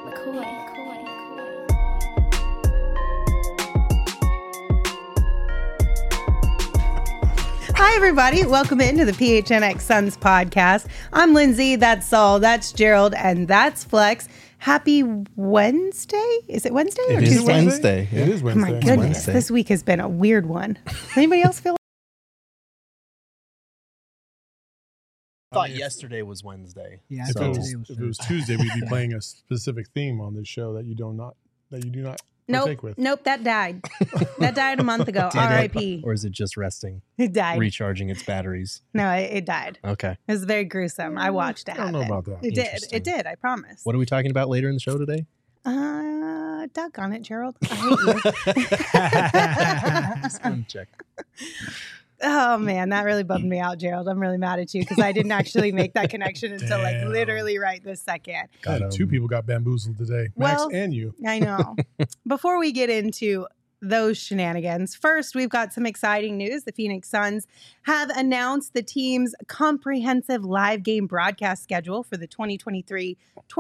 Hi, everybody. Welcome into the PHNX Suns podcast. I'm Lindsay. That's Saul. That's Gerald. And that's Flex. Happy Wednesday? Is it Wednesday or It Tuesday? is Wednesday. It is Oh, Wednesday. my goodness. Wednesday. This week has been a weird one. Anybody else feel I thought yesterday was Wednesday. Yeah, If, so, it was Tuesday, we'd be playing a specific theme on this show that you do not partake with. Nope, that died. That died a month ago. Did it? R.I.P. Or is it just resting, It died. recharging its batteries? No, it died. Okay. It was very gruesome. I watched it I don't know happen. about that. It did. Interesting. It did. I promise. What are we talking about later in the show today? Duck on it, Gerald. I hate you. Just wanted to check. Oh man, that really bummed me out, Gerald. I'm really mad at you because I didn't actually make that connection until like Damn. literally right this second. God, two people got bamboozled today, Max Well- and you. I know. Before we get into those shenanigans, first we've got some exciting news. The Phoenix Suns have announced the team's comprehensive live game broadcast schedule for the 2023-24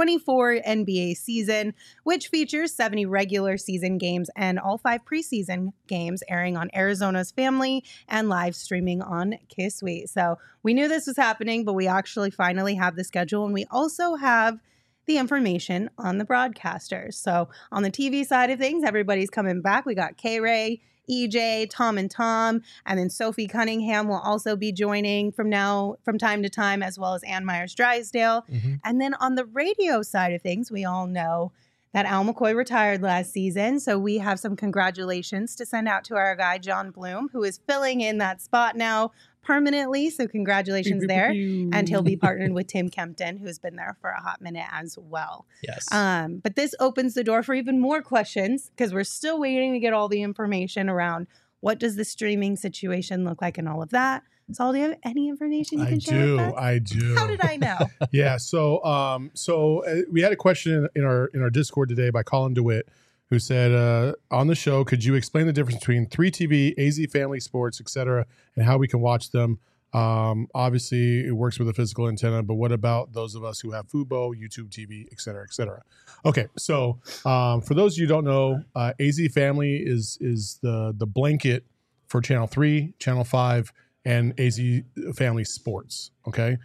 NBA season, which features 70 regular season games and all 5 preseason games airing on Arizona's Family and live streaming on Kiss Suite. So we knew this was happening, but we actually finally have the schedule, and we also have the information on the broadcasters. So on the TV side of things, everybody's coming back. We got K-Ray, EJ, Tom and Tom, and then Sophie Cunningham will also be joining from time to time, as well as Ann Myers Drysdale. Mm-hmm. And then on the radio side of things, we all know that Al McCoy retired last season. So we have some congratulations to send out to our guy, John Bloom, who is filling in that spot now permanently. So congratulations there. And he'll be partnered with Tim Kempton, who's been there for a hot minute as well. Yes. But this opens the door for even more questions because we're still waiting to get all the information around what does the streaming situation look like and all of that. Saul, do you have any information you can share with us? I do. How did I know? Yeah. So, we had a question in our Discord today by Colin DeWitt, who said on the show, could you explain the difference between 3TV, AZ Family Sports, etc., and how we can watch them? Obviously, it works with a physical antenna, but what about those of us who have Fubo, YouTube TV, etc., etc.? Okay, so for those of you who don't know, AZ Family is the blanket for Channel 3, Channel 5, and AZ Family Sports. Okay,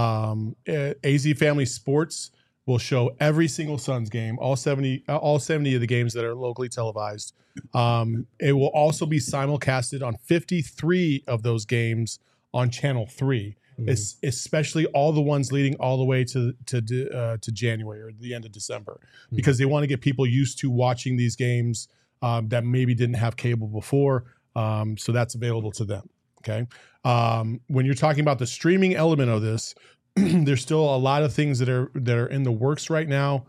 AZ Family Sports will show every single Suns game, all 70 of the games that are locally televised. It will also be simulcasted on 53 of those games on Channel 3, especially all the ones leading all the way to January or the end of December, because they want to get people used to watching these games that maybe didn't have cable before. So that's available to them. Okay. When you're talking about the streaming element of this, there's still a lot of things that are in the works right now.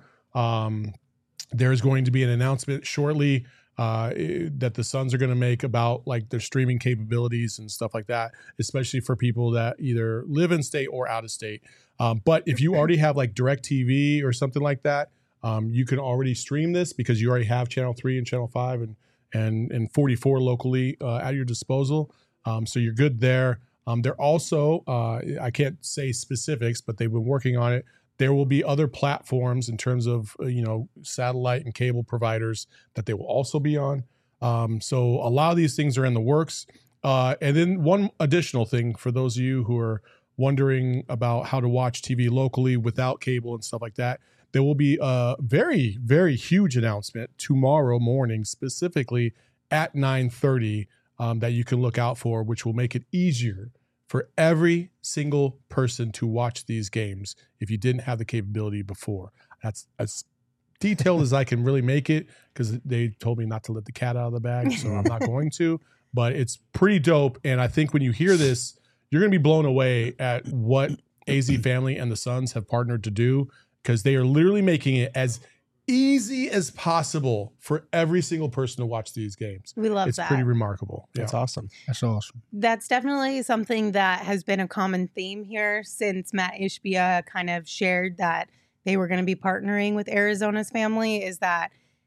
There's going to be an announcement shortly that the Suns are going to make about like their streaming capabilities and stuff like that, especially for people that either live in state or out of state. But if you already have like DirecTV or something like that, you can already stream this because you already have Channel 3 and Channel 5 and 44 locally at your disposal. So you're good there. They're also, I can't say specifics, but they've been working on it. There will be other platforms in terms of, satellite and cable providers that they will also be on. So a lot of these things are in the works. And then one additional thing for those of you who are wondering about how to watch TV locally without cable and stuff like that, there will be a very, very huge announcement tomorrow morning, specifically at 9:30, that you can look out for, which will make it easier for every single person to watch these games if you didn't have the capability before. That's as detailed as I can really make it because they told me not to let the cat out of the bag, so I'm not going to. But it's pretty dope, and I think when you hear this, you're going to be blown away at what AZ Family and the Suns have partnered to do, because they are literally making it as easy as possible for every single person to watch these games. We love it's that. It's pretty remarkable. That's awesome. That's awesome. That's definitely something that has been a common theme here since Matt Ishbia kind of shared that they were going to be partnering with Arizona's Family, is that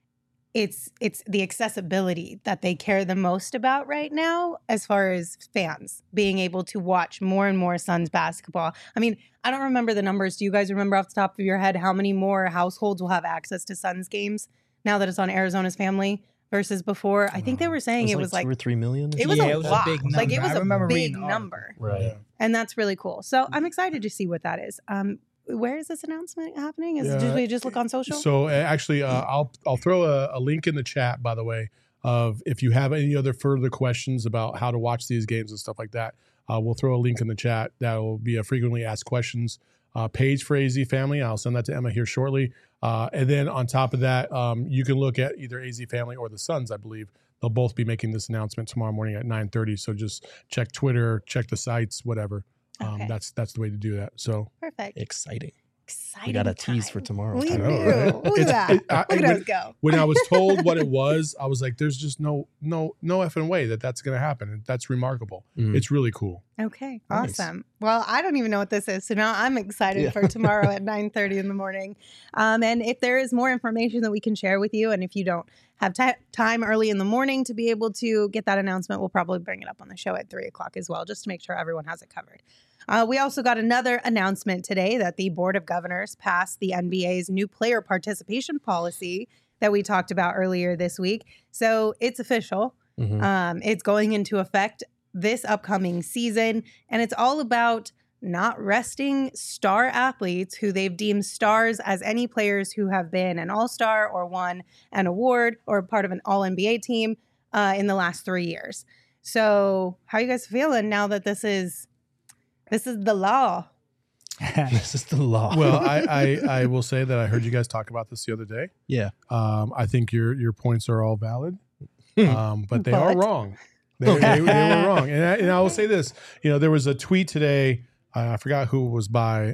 it's the accessibility that they care the most about right now, as far as fans being able to watch more and more Suns basketball. I mean, I don't remember the numbers. Do you guys remember off the top of your head how many more households will have access to Suns games now that it's on Arizona's Family versus before? I think they were saying it was like 2 or 3 million. It was a lot. big number. Like it was I remember a big reading the number, Right. and that's really cool. So I'm excited to see what that is. Where is this announcement happening? Did we just look on social? So actually, I'll throw a link in the chat, by the way, of if you have any other further questions about how to watch these games and stuff like that. We'll throw a link in the chat. That will be a frequently asked questions page for AZ Family. I'll send that to Emma here shortly. And then on top of that, you can look at either AZ Family or the Suns, I believe. They'll both be making this announcement tomorrow morning at 9:30. So just check Twitter, check the sites, whatever. Okay. That's the way to do that. So Perfect. Exciting. Exciting. We got a tease time. for tomorrow. We I do. know, right? Look at that. Look at us go. when I was told what it was, I was like, "There's just no effing way that's going to happen." And that's remarkable. Mhm. It's really cool. Okay, Nice. awesome. Well, I don't even know what this is, so now I'm excited for tomorrow at 9:30 in the morning. And if there is more information that we can share with you, and if you don't have time early in the morning to be able to get that announcement, we'll probably bring it up on the show at 3 o'clock as well, just to make sure everyone has it covered. We also got another announcement today that the Board of Governors passed the NBA's new player participation policy that we talked about earlier this week. So it's official. Mhm. It's going into effect this upcoming season, and it's all about not resting star athletes who they've deemed stars as any players who have been an all-star or won an award or part of an all-NBA team in the last 3 years. So how are you guys feeling now that this is the law? This is the law. Well, I will say that I heard you guys talk about this the other day. Yeah. I think your points are all valid, but they are But? wrong. They were wrong. And I will say this. There was a tweet today. I forgot who it was by,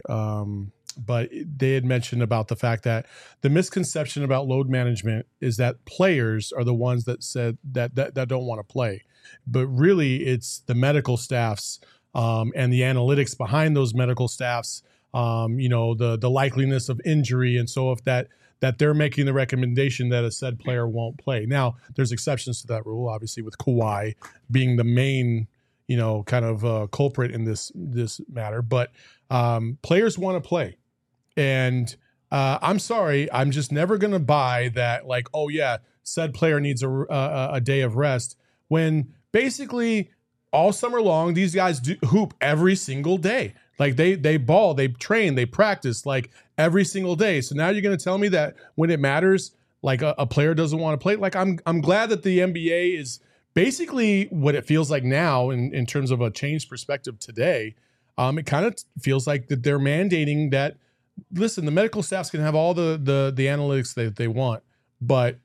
but they had mentioned about the fact that the misconception about load management is that players are the ones that said that don't want to play, but really it's the medical staffs and the analytics behind those medical staffs. The likeliness of injury, and so if that they're making the recommendation that a said player won't play. Now, there's exceptions to that rule, obviously, with Kawhi being the main, kind of culprit in this matter. But players want to play, and I'm sorry, I'm just never going to buy that. Like, oh yeah, said player needs a day of rest when basically all summer long these guys do hoop every single day. Like they ball, they train, they practice like every single day. So now you're going to tell me that when it matters, like a player doesn't want to play. Like I'm glad that the NBA is basically what it feels like now in terms of a changed perspective today. It kind of feels like that they're mandating that. Listen, the medical staffs can have all the analytics that they want, but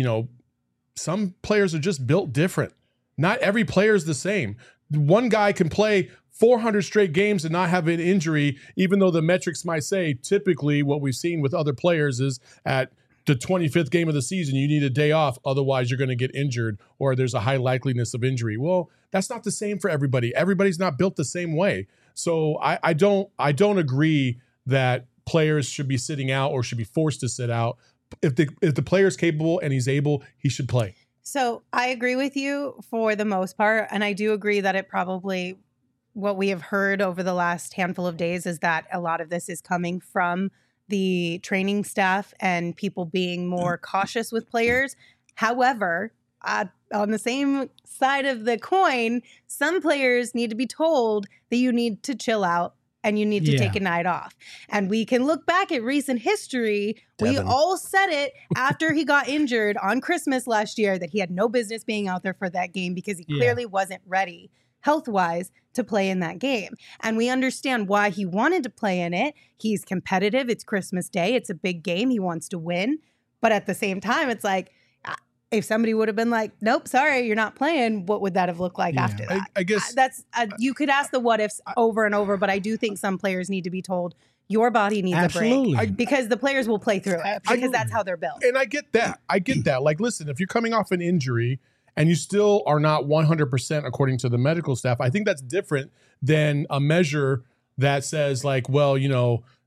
some players are just built different. Not every player is the same. One guy can play 400 straight games and not have an injury, even though the metrics might say typically what we've seen with other players is at the 25th game of the season, you need a day off. Otherwise, you're going to get injured or there's a high likeliness of injury. Well, that's not the same for everybody. Everybody's not built the same way. So I don't agree that players should be sitting out or should be forced to sit out. If the player's capable and he's able, he should play. So I agree with you for the most part. And I do agree that it probably, what we have heard over the last handful of days is that a lot of this is coming from the training staff and people being more cautious with players. However, on the same side of the coin, some players need to be told that you need to chill out and you need to take a night off. And we can look back at recent history. Devin. We all said it after he got injured on Christmas last year that he had no business being out there for that game because he clearly wasn't ready health-wise to play in that game. And we understand why he wanted to play in it. He's competitive. It's Christmas Day. It's a big game. He wants to win. But at the same time, it's like, if somebody would have been like, nope, sorry, you're not playing, what would that have looked like after that? I guess that's you could ask the what ifs over and over, but I do think some players need to be told your body needs a break because the players will play through it because that's how they're built. And I get that. Like, listen, if you're coming off an injury and you still are not 100% according to the medical staff, I think that's different than a measure that says like, well,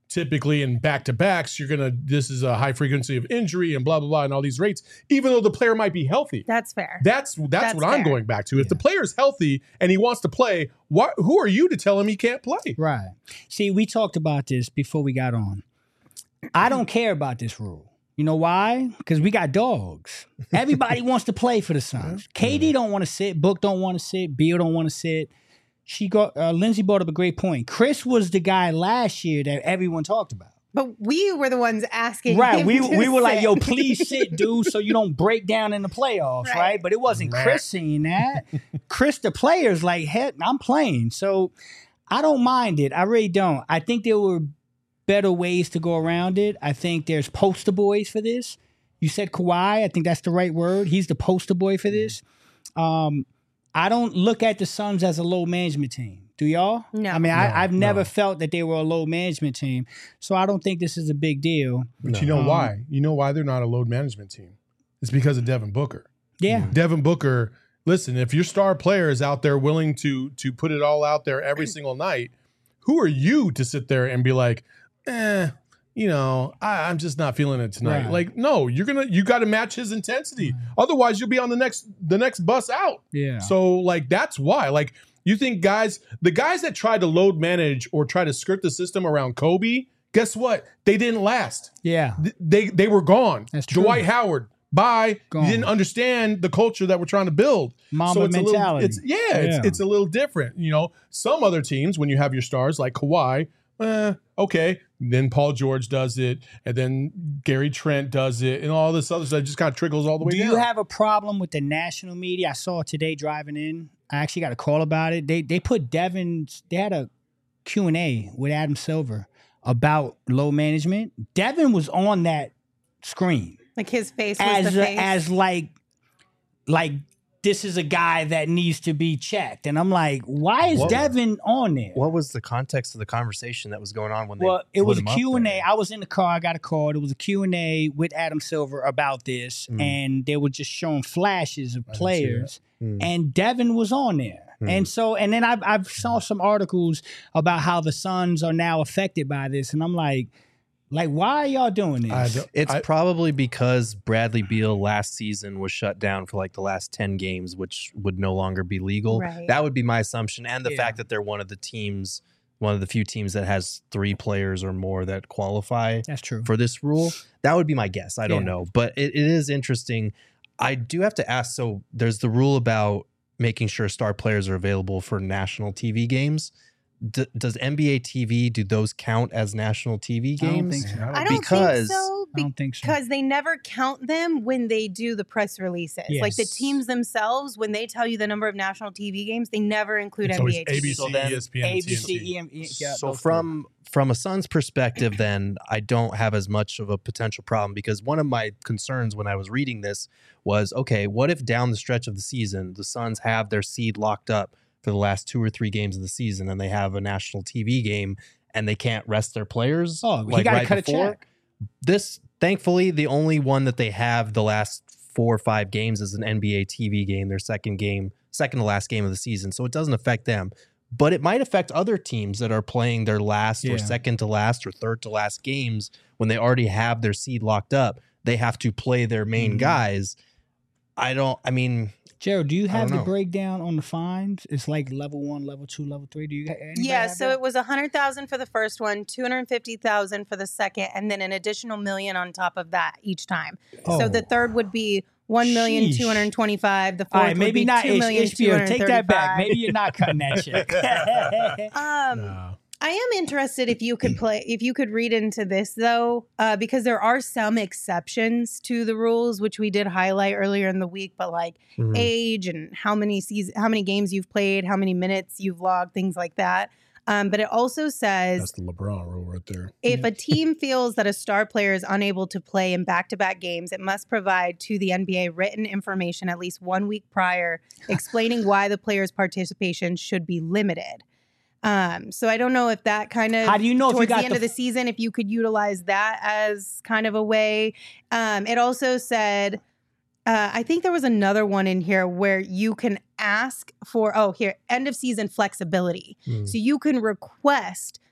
typically in back-to-backs, this is a high frequency of injury and blah, blah, blah, and all these rates, even though the player might be healthy. That's fair. That's what fair. I'm going back to. If the player's healthy and he wants to play, who are you to tell him he can't play? Right. See, we talked about this before we got on. I don't care about this rule. You know why? Because we got dogs. Everybody wants to play for the Suns. KD don't want to sit. Book don't want to sit. Beal don't want to sit. Lindsay brought up a great point. Chris was the guy last year that everyone talked about. But we were the ones asking. Right. him We to were like, sit. yo, please sit, dude, so you don't break down in the playoffs, right? But it wasn't Chris saying that. Chris, the player's like, heck, I'm playing. So I don't mind it. I really don't. I think there were better ways to go around it. I think there's poster boys for this. You said Kawhi. I think that's the right word. He's the poster boy for this. I don't look at the Suns as a low management team. Do y'all? No. I mean, I've never felt that they were a low management team. So I don't think this is a big deal. But you know why? You know why they're not a load management team? It's because of Devin Booker. Yeah. Devin Booker, listen, if your star player is out there willing to put it all out there every single night, who are you to sit there and be like, I'm just not feeling it tonight. Right. Like, no, you got to match his intensity. Otherwise, you'll be on the next bus out. Yeah. So, like, that's why. Like, you think the guys that tried to load manage or try to skirt the system around Kobe, guess what? They didn't last. Yeah. They were gone. That's true. Dwight Howard, bye. Gone. You didn't understand the culture that we're trying to build. Mamba it's mentality. It's a little different. Some other teams, when you have your stars like Kawhi, okay. Then Paul George does it, and then Gary Trent does it, and all this other stuff just kind of trickles all the way down. Do you have a problem with the national media? I saw today driving in. I actually got a call about it. They put they had a Q&A with Adam Silver about low management. Devin was on that screen. Like his face was the face. As like this is a guy that needs to be checked. And I'm like, why is Devin on there? What was the context of the conversation that was going on when it was a Q&A. I was in the car. I got a call. It was a Q&A with Adam Silver about this. And they were just showing flashes of players. And Devin was on there. And then I've saw some articles about how the Suns are now affected by this. And I'm like, why are y'all doing this? It's probably because Bradley Beal last season was shut down for like the last 10 games, which would no longer be legal. Right. That would be my assumption. And the fact that they're one of the few teams that has 3 players or more that qualify That's true. for this rule. That would be my guess. I don't know. But it is interesting. I do have to ask, so there's the rule about making sure star players are available for national TV games. Does NBA TV, do those count as national TV games? I don't think so. I don't think so. Because Because they never count them when they do the press releases. Yes. Like the teams themselves, when they tell you the number of national TV games, they never include It's always NBA TV. ABC, So then ESPN, ABC, TNT. So from a Suns perspective, then I don't have as much of a potential problem, because one of my concerns when I was reading this was, okay, what if down the stretch of the season, the Suns have their seed locked up for the last 2 or 3 games of the season, and they have a national TV game and they can't rest their players? Oh, he got to cut a check. This, thankfully, the only one that they have the last 4 or 5 games is an NBA TV game, their second to last game of the season. So it doesn't affect them. But it might affect other teams that are playing their last or second to last or third to last games when they already have their seed locked up. They have to play their main guys. Gerald, do you have the know. breakdown on the fines? It's like level 1, level 2, level 3. Do you? Yeah, so it was $100,000 for the first one, $250,000 for the second, and then an additional $1 million on top of that each time. So the third would be $1,225,000. The fourth would be $2,235,000. Take that back. Maybe you're not cutting that check. No. I am interested if you could read into this though, because there are some exceptions to the rules, which we did highlight earlier in the week, but like age and how many games you've played, how many minutes you've logged, things like that. But it also says That's the LeBron rule right there. if a team feels that a star player is unable to play in back-to-back games, it must provide to the NBA written information at least 1 week prior explaining why the player's participation should be limited. So I don't know if that kind of, how do you know if you towards got the end of the season, if you could utilize that as kind of a way. It also said, I think there was another one in here where you can ask for, end of season flexibility. So you can request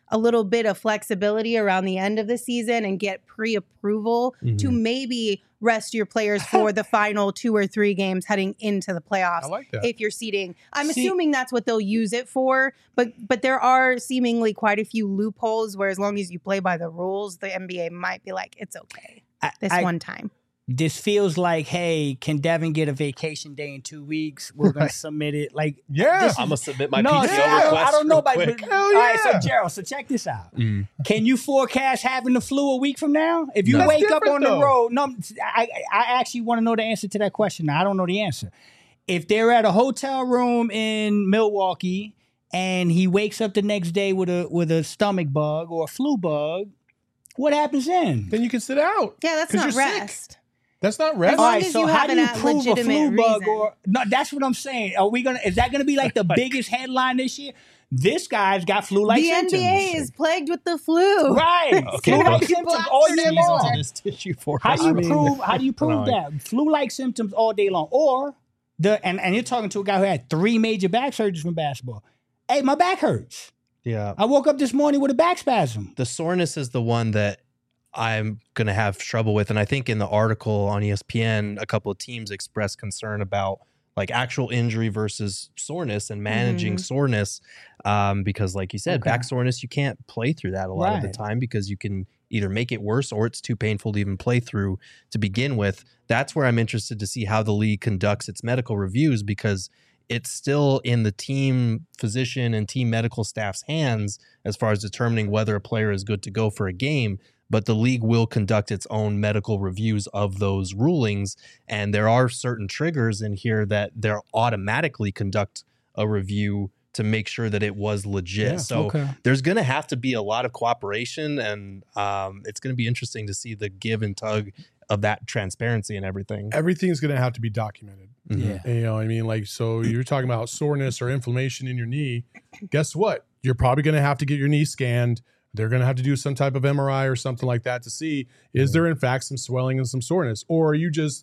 a little bit of flexibility around the end of the season and get pre-approval to maybe rest your players for the final 2 or 3 games heading into the playoffs. I like that. If you're seeding, I'm assuming that's what they'll use it for, but there are seemingly quite a few loopholes where as long as you play by the rules, the NBA might be like, it's okay one time. This feels like, hey, can Devin get a vacation day in 2 weeks? We're going to submit it. Like, Yeah. I'm gonna submit my no, PTO request. I don't know real about quick. All right, so Gerald, so check this out. Can you forecast having the flu a week from now? If you That's wake up different, on though. the road, no, I actually want to know the answer to that question. Now, I don't know the answer. If they're at a hotel room in Milwaukee and he wakes up the next day with a stomach bug or a flu bug, what happens then? Then you can sit out. Yeah, that's 'Cause not you're sick. rest. That's not rest. As long All right, as so you how have do you a prove a flu legitimate bug reason. or no? That's what I'm saying. Is that gonna be like the biggest headline this year? This guy's got flu-like The symptoms. NBA is plagued with the flu. Right. Okay, Flu-like bro. symptoms all year Sneeze long. onto this tissue for How us. do you prove no, that? Flu-like symptoms all day long. Or and you're talking to a guy who had 3 major back surgeries from basketball. Hey, my back hurts. Yeah. I woke up this morning with a back spasm. The soreness is the one that I'm going to have trouble with. And I think in the article on ESPN, a couple of teams expressed concern about like actual injury versus soreness and managing soreness. Because like you said, back soreness, you can't play through that a lot of the Right. time because you can either make it worse or it's too painful to even play through to begin with. That's where I'm interested to see how the league conducts its medical reviews because it's still in the team physician and team medical staff's hands as far as determining whether a player is good to go for a game. But the league will conduct its own medical reviews of those rulings. And there are certain triggers in here that they'll automatically conduct a review to make sure that it was legit. Yeah, so okay. there's going to have to be a lot of cooperation and it's going to be interesting to see the give and tug of that transparency and everything. Everything's going to have to be documented. Yeah. You know what I mean? Like, so you're talking about soreness or inflammation in your knee. Guess what? You're probably going to have to get your knee scanned. They're going to have to do some type of MRI or something like that to see, is there in fact some swelling and some soreness? Or are you just,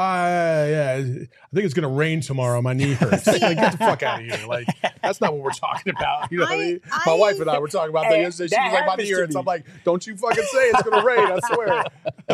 yeah, I think it's going to rain tomorrow. My knee hurts. Like, get the fuck out of here. Like, that's not what we're talking about. You know what I mean? My wife and I were talking about that yesterday. She was like, my knee hurts. I'm like, don't you fucking say it's going to rain.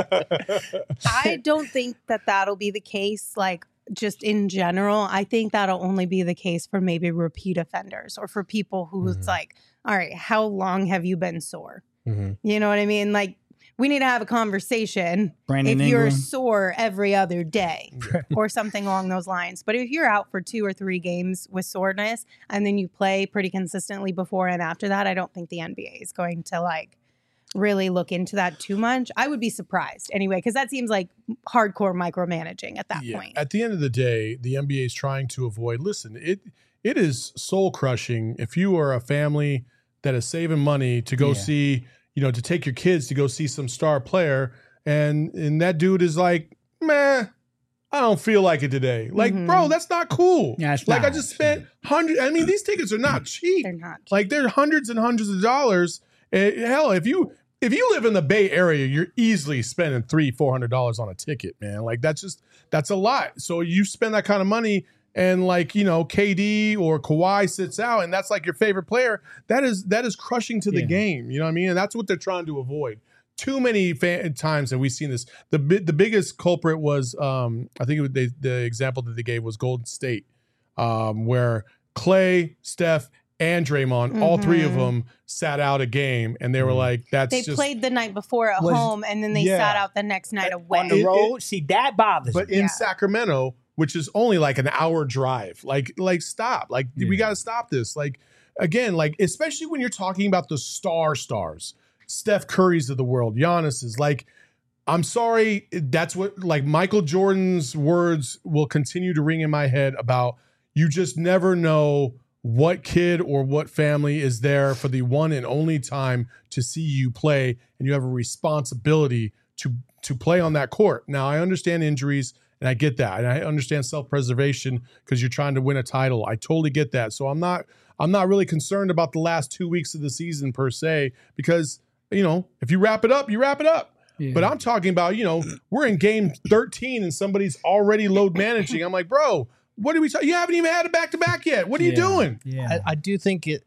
I swear. I don't think that that'll be the case, like, just in general. I think that'll only be the case for maybe repeat offenders or for people who it's like, all right, how long have you been sore? You know what I mean? Like, we need to have a conversation Brandon if you're Ingram. sore every other day or something along those lines. But if you're out for 2 or 3 games with soreness and then you play pretty consistently before and after that, I don't think the NBA is going to like really look into that too much. I would be surprised anyway, because that seems like hardcore micromanaging at that point. At the end of the day, the NBA is trying to avoid, listen, it is soul crushing if you are a family that is saving money to go see, you know, to take your kids to go see some star player. And that dude is like, man, I don't feel like it today. Like, bro, that's not cool. Yeah, it's like not. I just spent hundreds. I mean, these tickets are not cheap. They're not. Like they're hundreds and hundreds of dollars. Hell, if you live in the Bay Area, you're easily spending $300-400 on a ticket, man. Like that's a lot. So you spend that kind of money and like, you know, KD or Kawhi sits out and that's like your favorite player. That is crushing to the game. You know what I mean? And that's what they're trying to avoid. Too many times that we've seen this. The biggest culprit was, I think the example that they gave was Golden State, where Clay, Steph, and Draymond, all 3 of them sat out a game, and they were like, "That's They just." played the night before at home, and then they sat out the next night away. On the road, see, that bothers But me. in Sacramento, which is only like an hour drive, like stop, like we got to stop this. Like again, like especially when you're talking about the stars, Steph Curry's of the world, Giannis is like. I'm sorry, that's what like Michael Jordan's words will continue to ring in my head about you just never know what kid or what family is there for the one and only time to see you play, and you have a responsibility to play on that court. Now, I understand injuries, and I get that, and I understand self-preservation because you're trying to win a title. I totally get that. So I'm not really concerned about the last 2 weeks of the season per se, because you know if you wrap it up, you wrap it up. Yeah. But I'm talking about, you know, we're in game 13 and somebody's already load managing. I'm like, bro, what are we talking? You haven't even had a back-to-back yet. What are you doing? Yeah. I do think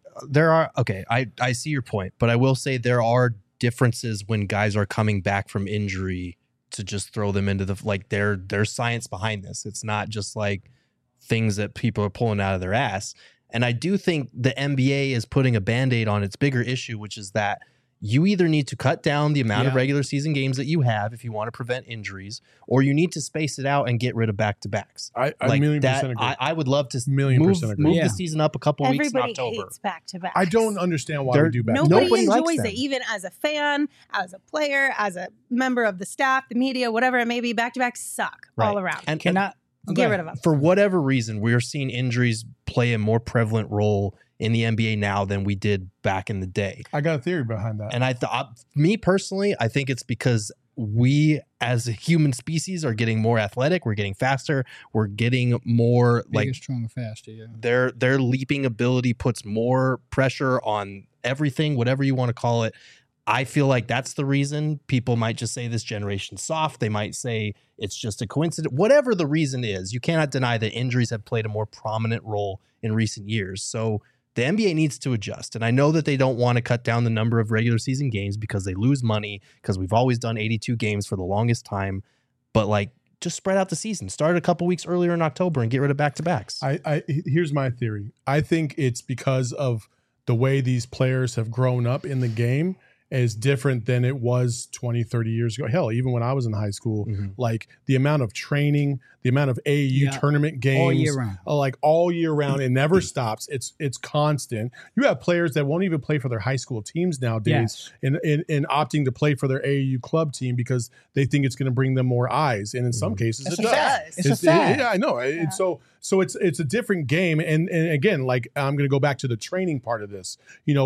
I see your point, but I will say there are differences when guys are coming back from injury to just throw them into there's science behind this. It's not just like things that people are pulling out of their ass. And I do think the NBA is putting a Band-Aid on its bigger issue, which is that you either need to cut down the amount of regular season games that you have if you want to prevent injuries, or you need to space it out and get rid of back-to-backs. I million percent agree. I would love to move the season up a couple weeks in October. Everybody hates back-to-backs. I don't understand why we do back-to-backs. Nobody enjoys it, even as a fan, as a player, as a member of the staff, the media, whatever it may be. Back-to-backs suck all around. And get rid of them. For whatever reason, we're seeing injuries play a more prevalent role in the NBA now than we did back in the day. I got a theory behind that. And me personally, I think it's because we as a human species are getting more athletic. We're getting faster. We're getting more bigger, stronger, faster. Yeah. Their leaping ability puts more pressure on everything, whatever you want to call it. I feel like that's the reason. People might just say this generation's soft. They might say it's just a coincidence. Whatever the reason is, you cannot deny that injuries have played a more prominent role in recent years. So the NBA needs to adjust. And I know that they don't want to cut down the number of regular season games because they lose money, because we've always done 82 games for the longest time. But just spread out the season. Start a couple weeks earlier in October and get rid of back-to-backs. Here's my theory. I think it's because of the way these players have grown up in the game is different than it was 20, 30 years ago. Hell, even when I was in high school, like the amount of training, the amount of AAU tournament games, all year round. All year round. It never stops. It's constant. You have players that won't even play for their high school teams nowadays in opting to play for their AAU club team because they think it's going to bring them more eyes. And in some cases, it does. It's a fact. Yeah, I know. Yeah. So it's a different game. And again, I'm going to go back to the training part of this.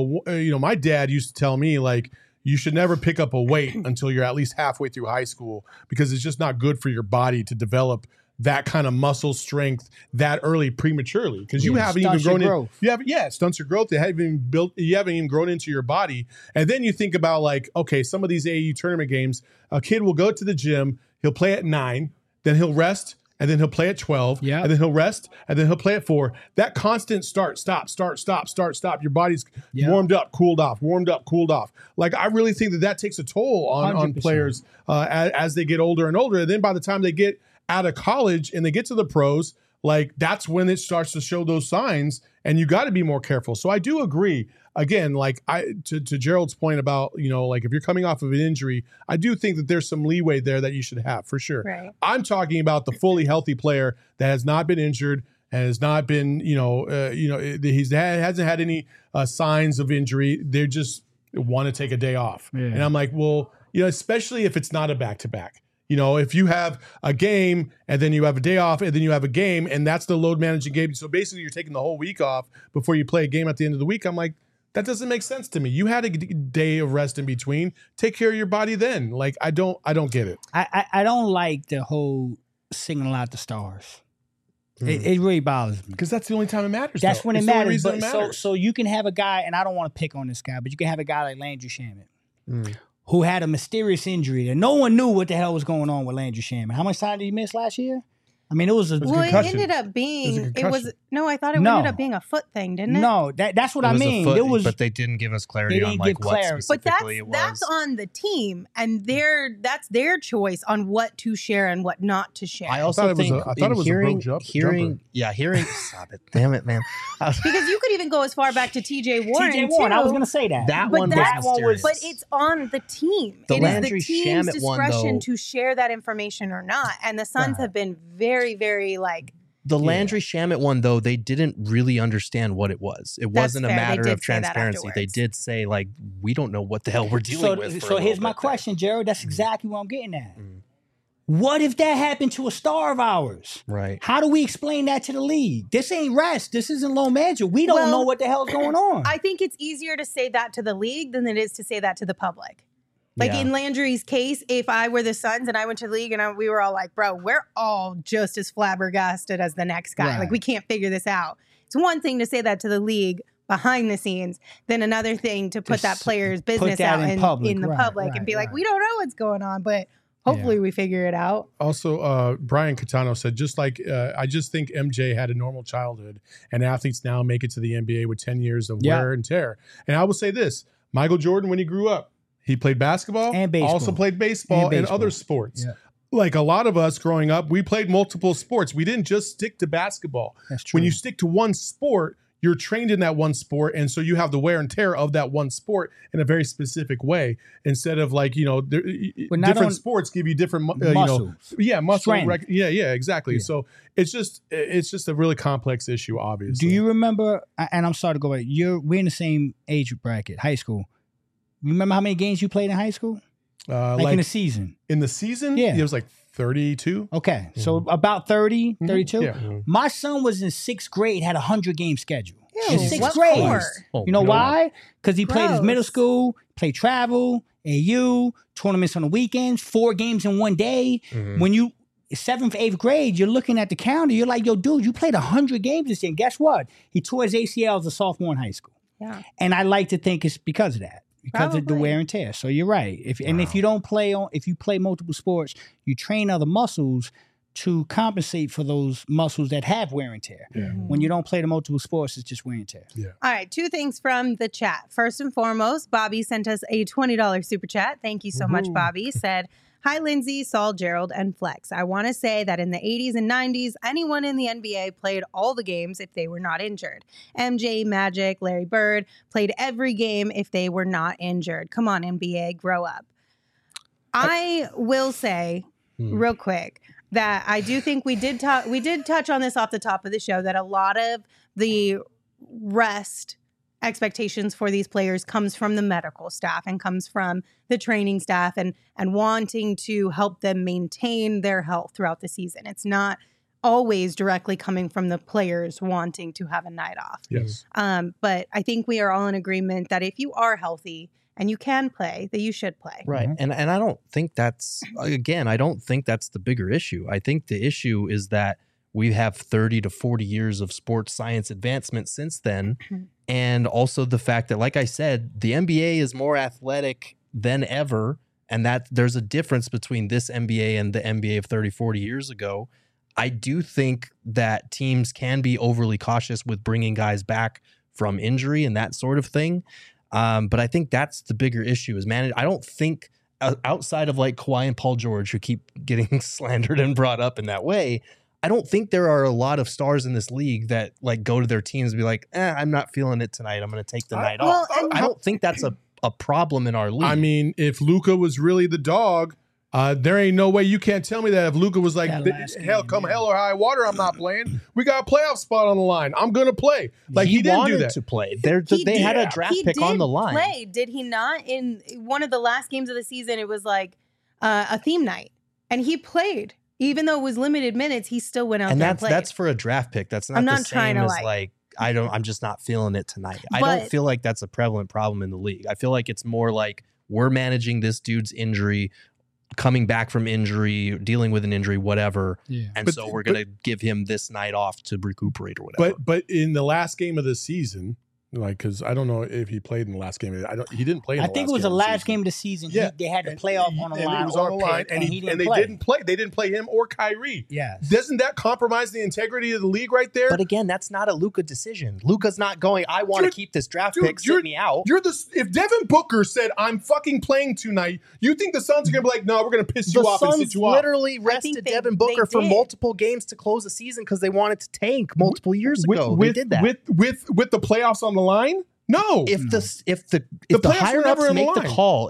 My dad used to tell me you should never pick up a weight until you're at least halfway through high school because it's just not good for your body to develop that kind of muscle strength that early prematurely because you haven't even grown in. It stunts your growth. You haven't even grown into your body. And then you think about some of these AAU tournament games, a kid will go to the gym, he'll play at 9, then he'll rest, and then he'll play at 12, and then he'll rest, and then he'll play at 4. That constant start, stop. Your body's warmed up, cooled off, warmed up, cooled off. I really think that takes a toll on players as they get older and older. And then by the time they get out of college and they get to the pros, that's when it starts to show those signs, and you got to be more careful. So I do agree. Again, to Gerald's point about, if you're coming off of an injury, I do think that there's some leeway there that you should have for sure. Right. I'm talking about the fully healthy player that has not been injured, has not been, he hasn't had any signs of injury. They just want to take a day off. Yeah. And I'm like, well, especially if it's not a back-to-back. If you have a game and then you have a day off and then you have a game and that's the load managing game. So basically you're taking the whole week off before you play a game at the end of the week. I'm like, that doesn't make sense to me. You had a day of rest in between. Take care of your body then. I don't get it. I don't like the whole singling out the stars. It really bothers me. Because that's the only time it matters. That's when it matters. But so you can have a guy, and I don't want to pick on this guy, but you can have a guy like Landry Shamet, who had a mysterious injury and no one knew what the hell was going on with Landry Shamet. How much time did he miss last year? I mean, it was a concussion. It ended up being I thought it ended up being a foot thing, didn't it? No, that's what I mean. But they didn't give us clarity on what specifically it was. But that's on the team, and that's their choice on what to share and what not to share. I also think I thought it was a broke jumper. Stop it, damn it, man. Because you could even go as far back to TJ Warren. TJ Warren, I was going to say that. That one was, but it's on the team. The it Landry is the team's Shamet discretion one, to share that information or not. And the Suns have been very, very the Landry Shamet one, though, they didn't really understand what it was. It wasn't a matter of transparency. They did say, we don't know what the hell we're dealing with. So here's my question, Gerald. That's exactly what I'm getting at. What if that happened to a star of ours? Right. How do we explain that to the league? This ain't rest. This isn't low management. We don't know what the hell's going on. I think it's easier to say that to the league than it is to say that to the public. In Landry's case, if I were the Suns and I went to the league and we were all like, bro, we're all just as flabbergasted as the next guy. Right. We can't figure this out. It's one thing to say that to the league behind the scenes, then another thing to put that player's business out in the public and be like, we don't know what's going on, but Hopefully we figure it out. Also, Brian Catano said, I just think MJ had a normal childhood, and athletes now make it to the NBA with 10 years of wear and tear. And I will say this, Michael Jordan, when he grew up, he played basketball and baseball. Also played baseball and other sports. Yeah. Like a lot of us growing up, we played multiple sports. We didn't just stick to basketball. That's true. When you stick to one sport, you're trained in that one sport, and so you have the wear and tear of that one sport in a very specific way. Instead of different sports give you different muscle, exactly. Yeah. So it's just a really complex issue, obviously. Do you remember? And I'm sorry to go back. We're in the same age bracket, high school. You remember how many games you played in high school? Like in the season? In the season, it was like 32. Okay, so about 30, 32. Yeah. My son was in 6th grade, had a 100-game schedule. In 6th grade. Oh, you know why? Because he played his middle school, played travel, AU, tournaments on the weekends, 4 games in one day. Mm-hmm. When you 7th, 8th grade, you're looking at the calendar, you're like, yo, dude, you played 100 games this year. And guess what? He tore his ACL as a sophomore in high school. Yeah. And I like to think it's because of that. Because of the wear and tear. So you're right. If you play multiple sports, you train other muscles to compensate for those muscles that have wear and tear. Yeah. When you don't play the multiple sports, it's just wear and tear. Yeah. All right, 2 things from the chat. First and foremost, Bobby sent us a $20 super chat. Thank you so much, Bobby. Said, hi, Lindsay, Saul, Gerald, and Flex. I want to say that in the 80s and 90s, anyone in the NBA played all the games if they were not injured. MJ, Magic, Larry Bird played every game if they were not injured. Come on, NBA, grow up. I will say real quick that I do think we did touch on this off the top of the show, that a lot of the rest expectations for these players comes from the medical staff and comes from the training staff and wanting to help them maintain their health throughout the season. It's not always directly coming from the players wanting to have a night off. Yes. But I think we are all in agreement that if you are healthy and you can play, that you should play. Right. And I don't think that's the bigger issue. I think the issue is that we have 30 to 40 years of sports science advancement since then. And also the fact that, like I said, the NBA is more athletic than ever. And that there's a difference between this NBA and the NBA of 30, 40 years ago. I do think that teams can be overly cautious with bringing guys back from injury and that sort of thing. But I think that's the bigger issue is I don't think outside of like Kawhi and Paul George, who keep getting slandered and brought up in that way, I don't think there are a lot of stars in this league that like go to their teams and be like, I'm not feeling it tonight. I'm going to take the night off. I don't think that's a problem in our league. I mean, if Luka was really the dog, there ain't no way you can't tell me that if Luka was like, hell or high water, I'm not playing. We got a playoff spot on the line. I'm going to play. Like he didn't do that. To play. They had a draft pick on the line. Play, did he not? In one of the last games of the season, it was like a theme night, and he played. Even though it was limited minutes, he still went out there and played. That's for a draft pick. That's not the same as like I'm just not feeling it tonight. I don't feel like that's a prevalent problem in the league. I feel like it's more like we're managing this dude's injury, coming back from injury, dealing with an injury, whatever. Yeah. And so we're going to give him this night off to recuperate or whatever. But in the last game of the season, like, because I don't know if he played in the last game. He didn't play. I think it was the last game of the season. Yeah. They had the playoff on the line. He was on the line, and they didn't play. They didn't play him or Kyrie. Yes. Doesn't that compromise the integrity of the league right there? But again, that's not a Luka decision. Luka's not going, I want to keep this draft pick, sit me out. If Devin Booker said, I'm fucking playing tonight, you think the Suns are going to be like, no, we're going to piss you off and sit you off? The Suns literally rested Devin Booker for multiple games to close the season because they wanted to tank multiple years ago. They did that. With the playoffs on the line? No. If the higher ups make the call,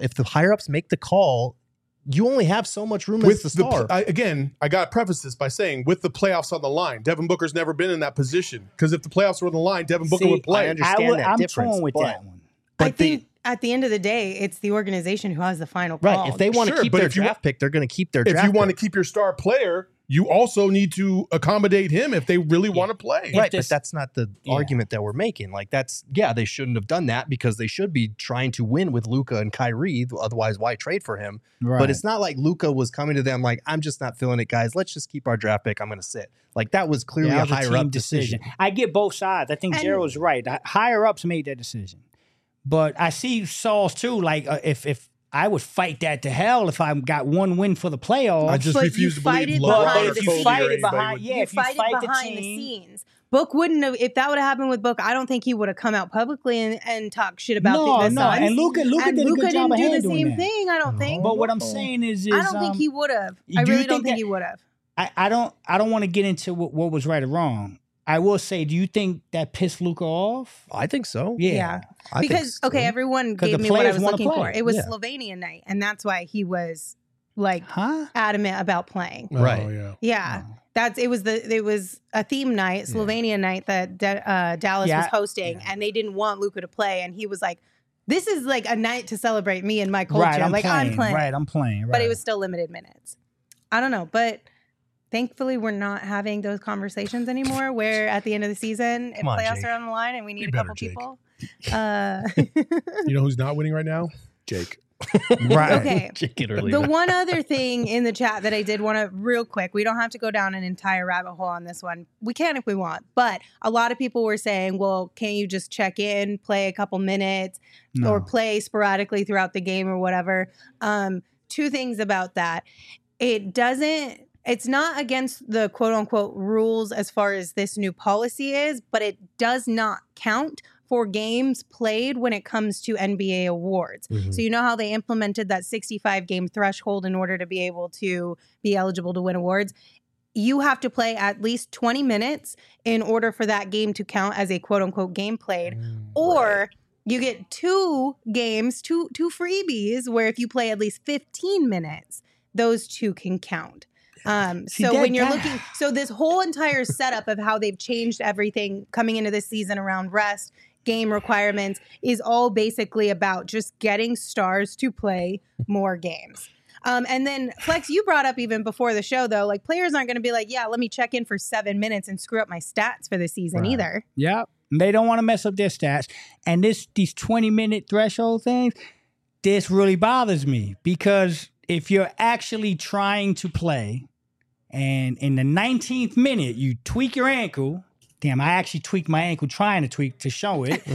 you only have so much room as the star. I got to preface this by saying, with the playoffs on the line, Devin Booker's never been in that position. Because if the playoffs were on the line, Devin Booker would play. I understand that difference. I'm torn with that one. I think at the end of the day, it's the organization who has the final call. Right. If they want to keep their draft pick, they're going to keep their draft pick. If you want to keep your star player, you also need to accommodate him if they really want to play. Right, but that's not the argument that we're making. Like they shouldn't have done that because they should be trying to win with Luka and Kyrie. Otherwise, why trade for him? Right. But it's not like Luka was coming to them like, I'm just not feeling it, guys. Let's just keep our draft pick. I'm going to sit. Like that was clearly a higher up decision. I get both sides. I think Gerald's right. Higher ups made that decision. But I see Saul's too. Like if I would fight that to hell if I got one win for the playoffs. I just But refuse you to fight believe it LeBron behind or the Kobe scenes. or fight it anybody behind, would- yeah, you if you fight fight it the behind the team, scenes. Book wouldn't have, if that would have happened with Book, I don't think he would have come out publicly and talk shit about the no, Suns. and Luka did a good Luka job didn't of do the handling same that. thing, I don't think. But what I'm saying is I don't think he would have. I do you really don't think think that- he would have. I don't want to get into what was right or wrong. I will say, do you think that pissed Luka off? I think so. Yeah. I think Because, so. okay, everyone 'Cause gave the me what I players was wanna looking play. for. It was Yeah. Slovenian night, and that's why he was like Huh? adamant about playing. Oh, Right. yeah. Yeah. Oh. It was a theme night, Slovenia night that Dallas Yeah. was hosting, and they didn't want Luka to play, and he was like, "This is like a night to celebrate me and my culture. Right, I'm I'm playing." Right, I'm playing. Right. But it was still limited minutes. I don't know, but thankfully we're not having those conversations anymore. Where at the end of the season, if Come on, playoffs Jake. are on the line and we need Be a better, couple Jake. people. You know who's not winning right now? Jake. right. Okay. Jake it early. The one other thing in the chat that I did want to real quick, we don't have to go down an entire rabbit hole on this one. We can if we want, but a lot of people were saying, well, can't you just check in, play a couple minutes No. or play sporadically throughout the game or whatever? Two things about that. It's not against the quote unquote rules as far as this new policy is, but it does not count for games played when it comes to NBA awards. Mhm. So you know how they implemented that 65 game threshold in order to be able to be eligible to win awards? You have to play at least 20 minutes in order for that game to count as a quote unquote game played. Or you get two games, two freebies, where if you play at least 15 minutes, those two can count. See, So when that- you're that- looking, so this whole entire setup of how they've changed everything coming into this season around rest, game requirements is all basically about just getting stars to play more games. And then Flex, you brought up even before the show though, like players aren't going to be like, yeah, let me check in for 7 minutes and screw up my stats for the season Right. either. Yep. They don't want to mess up their stats. And these 20-minute threshold things, this really bothers me because if you're actually trying to play and in the 19th minute you tweak your ankle, damn, I actually tweaked my ankle trying to tweak to show it.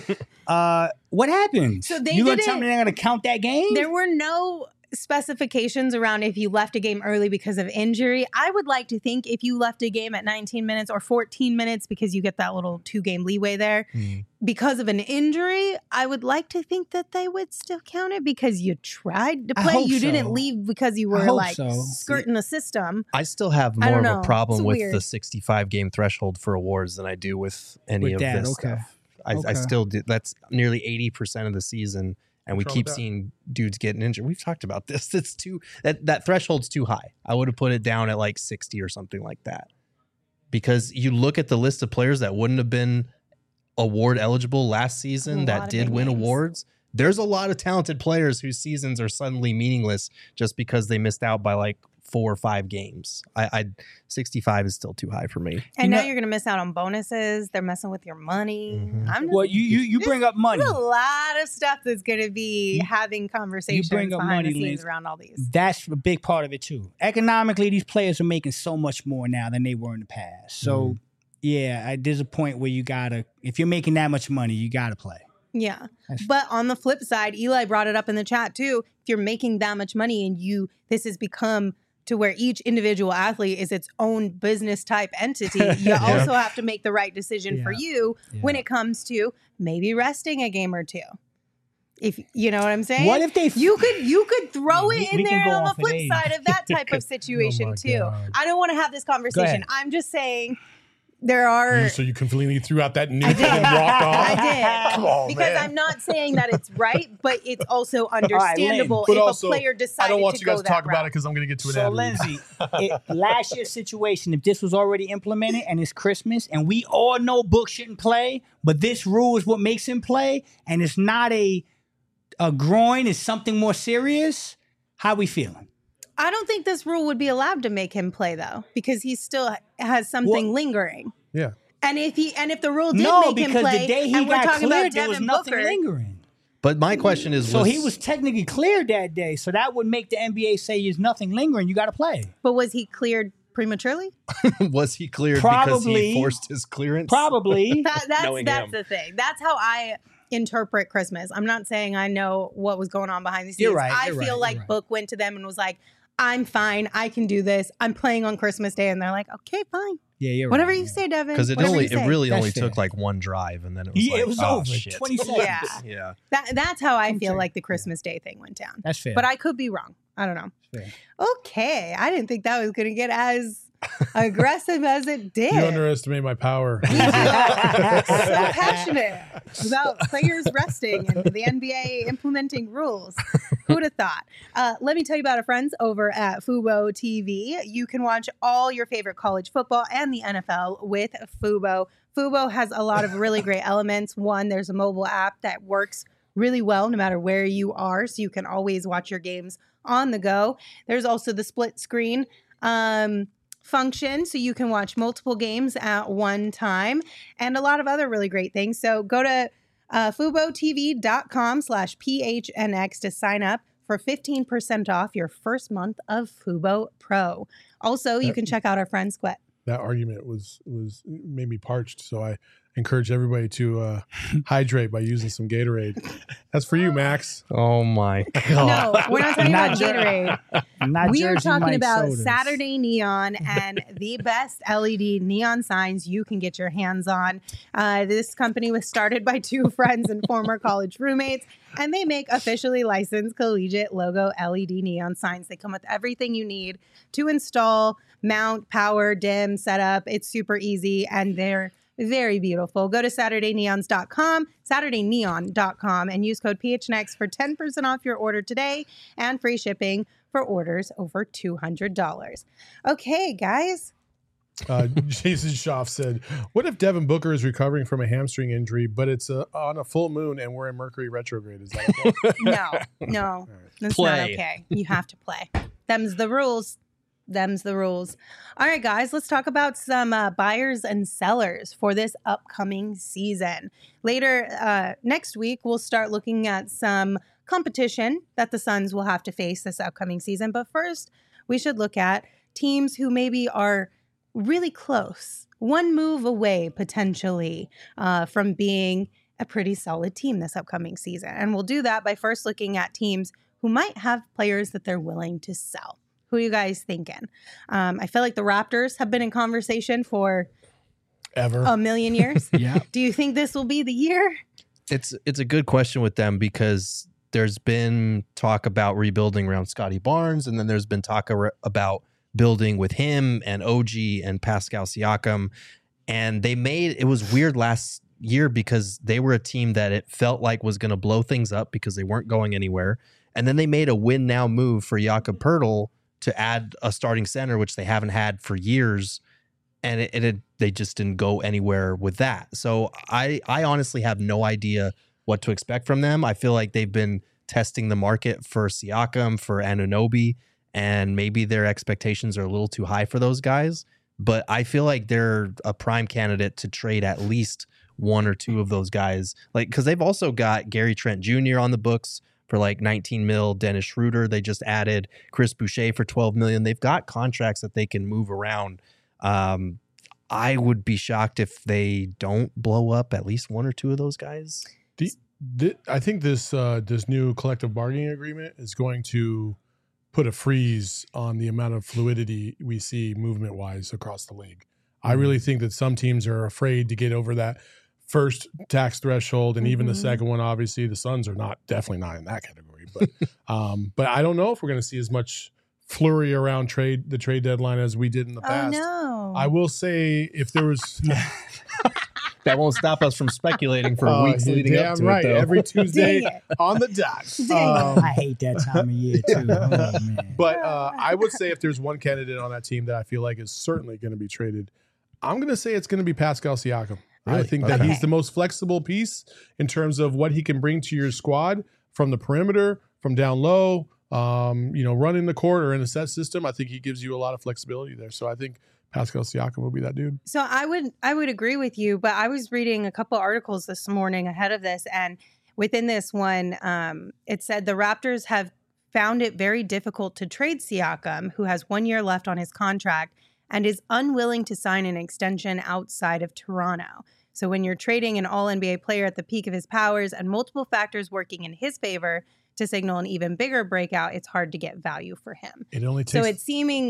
What happens? So they you gonna tell didn't- me they're gonna count that game? There were no specifications around if you left a game early because of injury. I would like to think if you left a game at 19 minutes or 14 minutes because you get that little 2-game leeway there because of an injury, I would like to think that they would still count it because you tried to I play. hope You so. didn't leave because you I were hope like so. skirting the system. I still have I more don't of know. a problem It's with weird. the 65 game threshold for awards than I do with any With of that, this okay. stuff. I Okay. still do. That's nearly 80% of the season, and we What's wrong keep with that? seeing dudes getting injured. We've talked about this. It's too that threshold's too high. I would have put it down at like 60 or something like that. Because you look at the list of players that wouldn't have been award eligible last A season lot that of did big win names. awards. There's a lot of talented players whose seasons are suddenly meaningless just because they missed out by like 4 or 5 games. I 65 is still too high for me. And You now know- you're going to miss out on bonuses. They're messing with your money. Mhm. I'm just, well, you bring up money. there's a lot of stuff that's going to be having conversations bring up behind money, the scenes Liz. around all these. That's a big part of it too. Economically, these players are making so much more now than they were in the past. So, yeah, there's a point where you gotta, if you're making that much money, you gotta play. Yeah. That's- But on the flip side, Eli brought it up in the chat too. If you're making that much money and this has become to where each individual athlete is its own business type entity, you also have to make the right decision for you when Yeah. it comes to maybe resting a game or two. If you know what I'm saying? What if they? you could throw Yeah, it we in can there go on the off at flip age. side of that type of situation Oh my too. God. I don't want to have this conversation. ahead. I'm just saying there are So you completely threw out that nuke I and did. then walked off? I did. Come on, because man. I'm not saying that it's right, but it's also understandable But if also, a player I decided don't want to you guys go to talk that about it route. because I'm going to get to an So ad read. Lindsay, last year's situation, if this was already implemented and it's Christmas and we all know Book shouldn't play, but this rule is what makes him play, and it's not a groin, it's something more serious. How we feeling? I don't think this rule would be allowed to make him play though, because he still has something Well- lingering. Yeah. And if the rule did No, make him because play, the day he and we're got talking about cleared, there was Devin nothing Booker, lingering. But my question is, So he was technically cleared that day. So that would make the NBA say there's nothing lingering. You got to play. but was he cleared prematurely? was he cleared because Probably. he forced his clearance? Probably. That's Knowing that's him. the thing. That's how I interpret Christmas. I'm not saying I know what was going on behind the scenes. You're right, I you're feel right, like you're right. Book went to them and was like, I'm fine. I can do this. I'm playing on Christmas Day. And they're like, okay, fine. Yeah, you're Whatever right. you say, Devin. Because it Whatever you say. really That's only fair. took like one drive, and then it was Yeah, like, it was oh, over. shit. 20 seconds. Yeah. Yeah. That's how I I'm feel sorry. like the Christmas Day thing went down. That's fair. But I could be wrong. I don't know. Fair. Okay. I didn't think that was going to get as aggressive as it did. You underestimate my power. So passionate about players resting and the NBA implementing rules. Who'd have thought? Let me tell you about our friends over at Fubo TV. You can watch all your favorite college football and the NFL with Fubo. Fubo has a lot of really great elements. One, there's a mobile app that works really well no matter where you are, so you can always watch your games on the go. There's also the split screen function, so you can watch multiple games at one time, and a lot of other really great things. So go to FuboTV.com/PHNX to sign up for 15% off your first month of Fubo Pro. Also, you can check out our friend Squet. That argument was made me parched, so I encourage everybody to hydrate by using some Gatorade. That's for you, Max. Oh my No, God. we're not talking Not about Jer- Gatorade. Not We are Jersey talking Mike about sodas. Saturday Neon and the best LED neon signs you can get your hands on. This company was started by two friends and former college roommates, and they make officially licensed collegiate logo LED neon signs. They come with everything you need to install, mount, power, dim, setup. It's super easy, and they're very beautiful. Go to SaturdayNeon.com, and use code PHNX for 10% off your order today and free shipping for orders over $200. Okay, guys. Jason Schaff said, "What if Devin Booker is recovering from a hamstring injury, but it's on a full moon and we're in Mercury retrograde? Is that okay?" No, that's Play. not okay. You have to play. Them's the rules. Them's the rules. All right, guys, let's talk about some buyers and sellers for this upcoming season. Later next week, we'll start looking at some competition that the Suns will have to face this upcoming season. But first, we should look at teams who maybe are really close, one move away potentially from being a pretty solid team this upcoming season. And we'll do that by first looking at teams who might have players that they're willing to sell. Who are you guys thinking? I feel like the Raptors have been in conversation for Ever. a million years. Yeah. Do you think this will be the year? It's a good question with them because there's been talk about rebuilding around Scotty Barnes, and then there's been talk about building with him and OG and Pascal Siakam. And it was weird last year because they were a team that it felt like was going to blow things up because they weren't going anywhere. And then they made a win now move for Jakob Poeltl to add a starting center, which they haven't had for years. And they just didn't go anywhere with that. So I honestly have no idea what to expect from them. I feel like they've been testing the market for Siakam, for Anunoby, and maybe their expectations are a little too high for those guys. But I feel like they're a prime candidate to trade at least one or two of those guys. Like, because they've also got Gary Trent Jr. on the books for like 19 mil, Dennis Schroeder. They just added Chris Boucher for 12 million. They've got contracts that they can move around. I would be shocked if they don't blow up at least one or two of those guys. I think this new collective bargaining agreement is going to put a freeze on the amount of fluidity we see movement-wise across the league. I really think that some teams are afraid to get over that first tax threshold, and even the second one. Obviously, the Suns are definitely not in that category. But I don't know if we're going to see as much flurry around the trade deadline as we did in the past. Oh, no. I will say, if there was That won't stop us from speculating for weeks you're leading up damn to right, it, though. every Tuesday Dang it. on the dot. Dang I hate that time of year too. Oh, man. But I would say if there's one candidate on that team that I feel like is certainly going to be traded, I'm going to say it's going to be Pascal Siakam. I Really? think that Okay. he's the most flexible piece in terms of what he can bring to your squad from the perimeter, from down low, running the court or in a set system. I think he gives you a lot of flexibility there. So I think Pascal Siakam will be that dude. So I would agree with you, but I was reading a couple articles this morning ahead of this, and within this one, it said the Raptors have found it very difficult to trade Siakam, who has 1 year left on his contract and is unwilling to sign an extension outside of Toronto. So when you're trading an all-NBA player at the peak of his powers and multiple factors working in his favor to signal an even bigger breakout, it's hard to get value for him. It only takes. So it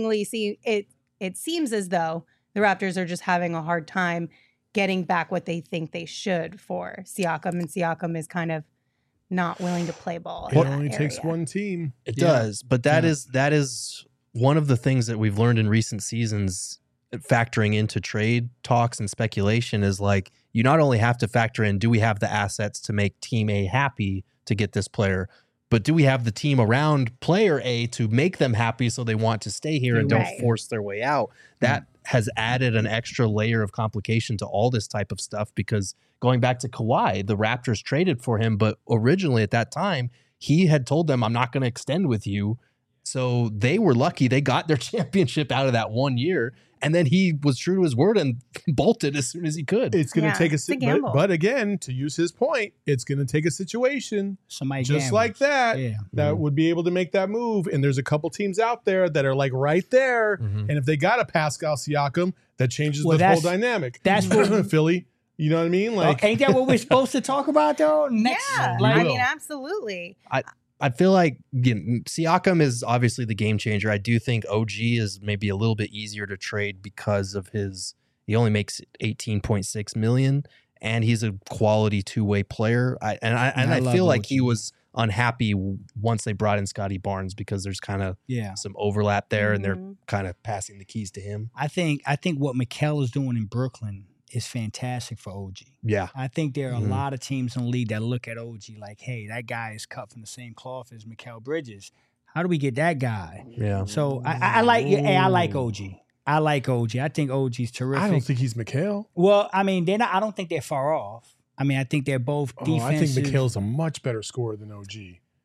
seems as though the Raptors are just having a hard time getting back what they think they should for Siakam, and Siakam is kind of not willing to play ball. It only takes one team. It does, but that is one of the things that we've learned in recent seasons, factoring into trade talks and speculation, is like, you not only have to factor in, do we have the assets to make team A happy to get this player, but do we have the team around player A to make them happy so they want to stay here and don't force their way out? That has added an extra layer of complication to all this type of stuff, because going back to Kawhi, the Raptors traded for him, but originally at that time, he had told them, I'm not going to extend with you. So they were lucky they got their championship out of that 1 year. And then he was true to his word and bolted as soon as he could. It's going to take a gamble. But again, to use his point, it's going to take a situation somebody just like that that would be able to make that move. And there's a couple teams out there that are like right there. And if they got a Pascal Siakam, that changes the whole dynamic. That's what Philly. You know what I mean? Like, ain't that what we're supposed to talk about though? I mean, absolutely. I feel like, again, Siakam is obviously the game changer. I do think OG is maybe a little bit easier to trade because of he only makes $18.6 million, and he's a quality two-way player. I feel like OG. He was unhappy once they brought in Scotty Barnes, because there's kind of some overlap there, and they're kind of passing the keys to him. I think what Mikal is doing in Brooklyn is fantastic for OG. Yeah. I think there are a lot of teams in the league that look at OG like, hey, that guy is cut from the same cloth as Mikal Bridges. How do we get that guy? Yeah. So I like OG. I like OG. I think OG's terrific. I don't think he's Mikal. Well, I mean, I don't think they're far off. I mean, I think they're both defensive. I think Mikal's a much better scorer than OG.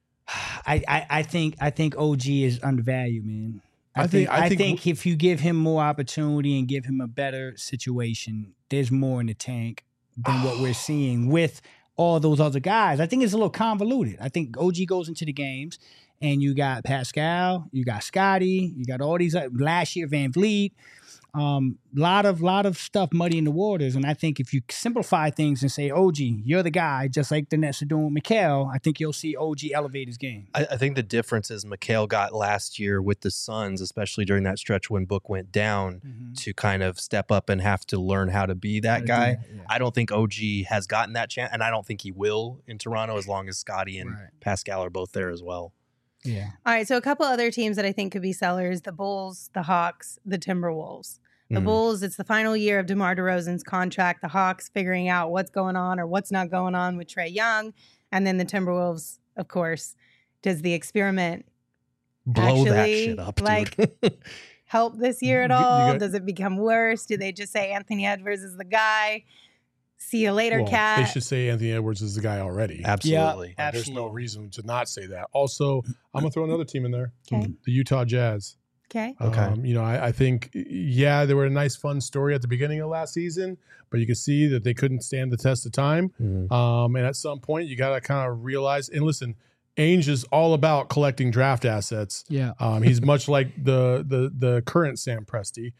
I think OG is undervalued, man. I think if you give him more opportunity and give him a better situation, there's more in the tank than what we're seeing with all those other guys. I think it's a little convoluted. I think OG goes into the games, and you got Pascal, you got Scotty, you got all these last year Van Vliet. Lot of stuff muddy in the waters, and I think if you simplify things and say, OG, you're the guy, just like the Nets are doing with Mikal, I think you'll see OG elevate his game. I think the difference is Mikal got last year with the Suns, especially during that stretch when Book went down, to kind of step up and have to learn how to be that guy. I don't think OG has gotten that chance, and I don't think he will in Toronto as long as Scotty and Pascal are both there as well. Yeah. All right. So a couple other teams that I think could be sellers: the Bulls, the Hawks, the Timberwolves. The Bulls, it's the final year of DeMar DeRozan's contract. The Hawks figuring out what's going on or what's not going on with Trae Young. And then the Timberwolves, of course, does the experiment blow that shit up, dude. Like, help this year at all? Does it become worse? Do they just say Anthony Edwards is the guy? See you later, Cat. They should say Anthony Edwards is the guy already. Absolutely. Yeah, There's no reason to not say that. Also, I'm going to throw another team in there. Okay. The Utah Jazz. Okay. I think, they were a nice, fun story at the beginning of last season, but you can see that they couldn't stand the test of time. And at some point, you got to kind of realize, and listen, Ainge is all about collecting draft assets. Yeah. He's much like the current Sam Presti.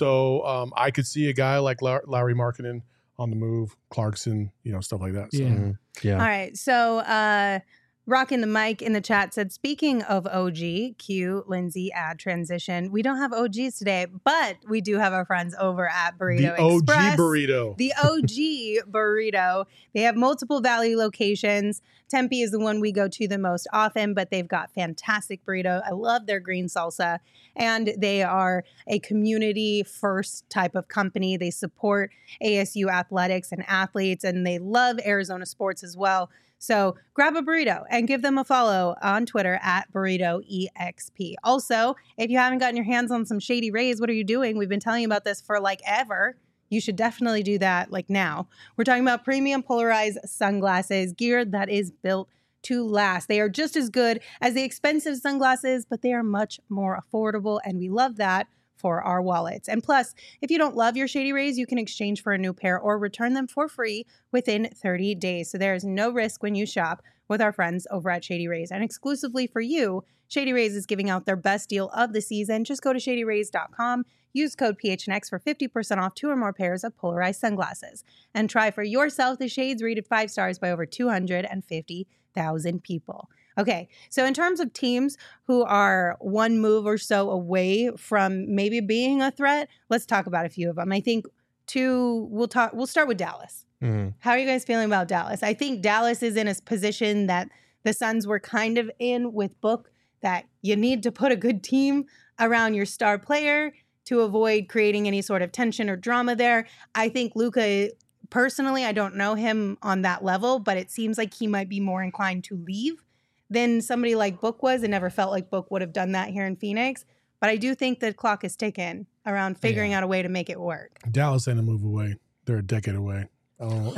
So I could see a guy like Larry Markkinen on the move, Clarkson, stuff like that. So. Yeah. All right. So, Rockin' the mic in the chat said, speaking of OG, cue Lindsay ad transition. We don't have OGs today, but we do have our friends over at Burrito Express. OG Burrito. The OG Burrito. They have multiple Valley locations. Tempe is the one we go to the most often, but they've got fantastic burrito. I love their green salsa. And they are a community first type of company. They support ASU athletics and athletes, and they love Arizona sports as well. So grab a burrito and give them a follow on Twitter at BurritoEXP. Also, if you haven't gotten your hands on some Shady Rays, what are you doing? We've been telling you about this for like ever. You should definitely do that like now. We're talking about premium polarized sunglasses, gear that is built to last. They are just as good as the expensive sunglasses, but they are much more affordable, and we love that for our wallets. And plus, if you don't love your Shady Rays, you can exchange for a new pair or return them for free within 30 days. So there is no risk when you shop with our friends over at Shady Rays. And exclusively for you, Shady Rays is giving out their best deal of the season. Just go to shadyrays.com, use code PHNX for 50% off 2 or more pairs of polarized sunglasses. And try for yourself the shades rated 5 stars by over 250,000 people. Okay, so in terms of teams who are one move or so away from maybe being a threat, let's talk about a few of them. I think we'll start with Dallas. Mm-hmm. How are you guys feeling about Dallas? I think Dallas is in a position that the Suns were kind of in with Book, that you need to put a good team around your star player to avoid creating any sort of tension or drama there. I think Luka, personally, I don't know him on that level, but it seems like he might be more inclined to leave than somebody like Book was. It never felt like Book would have done that here in Phoenix. But I do think the clock is ticking around figuring out a way to make it work. Dallas ain't a move away. They're a decade away. I'm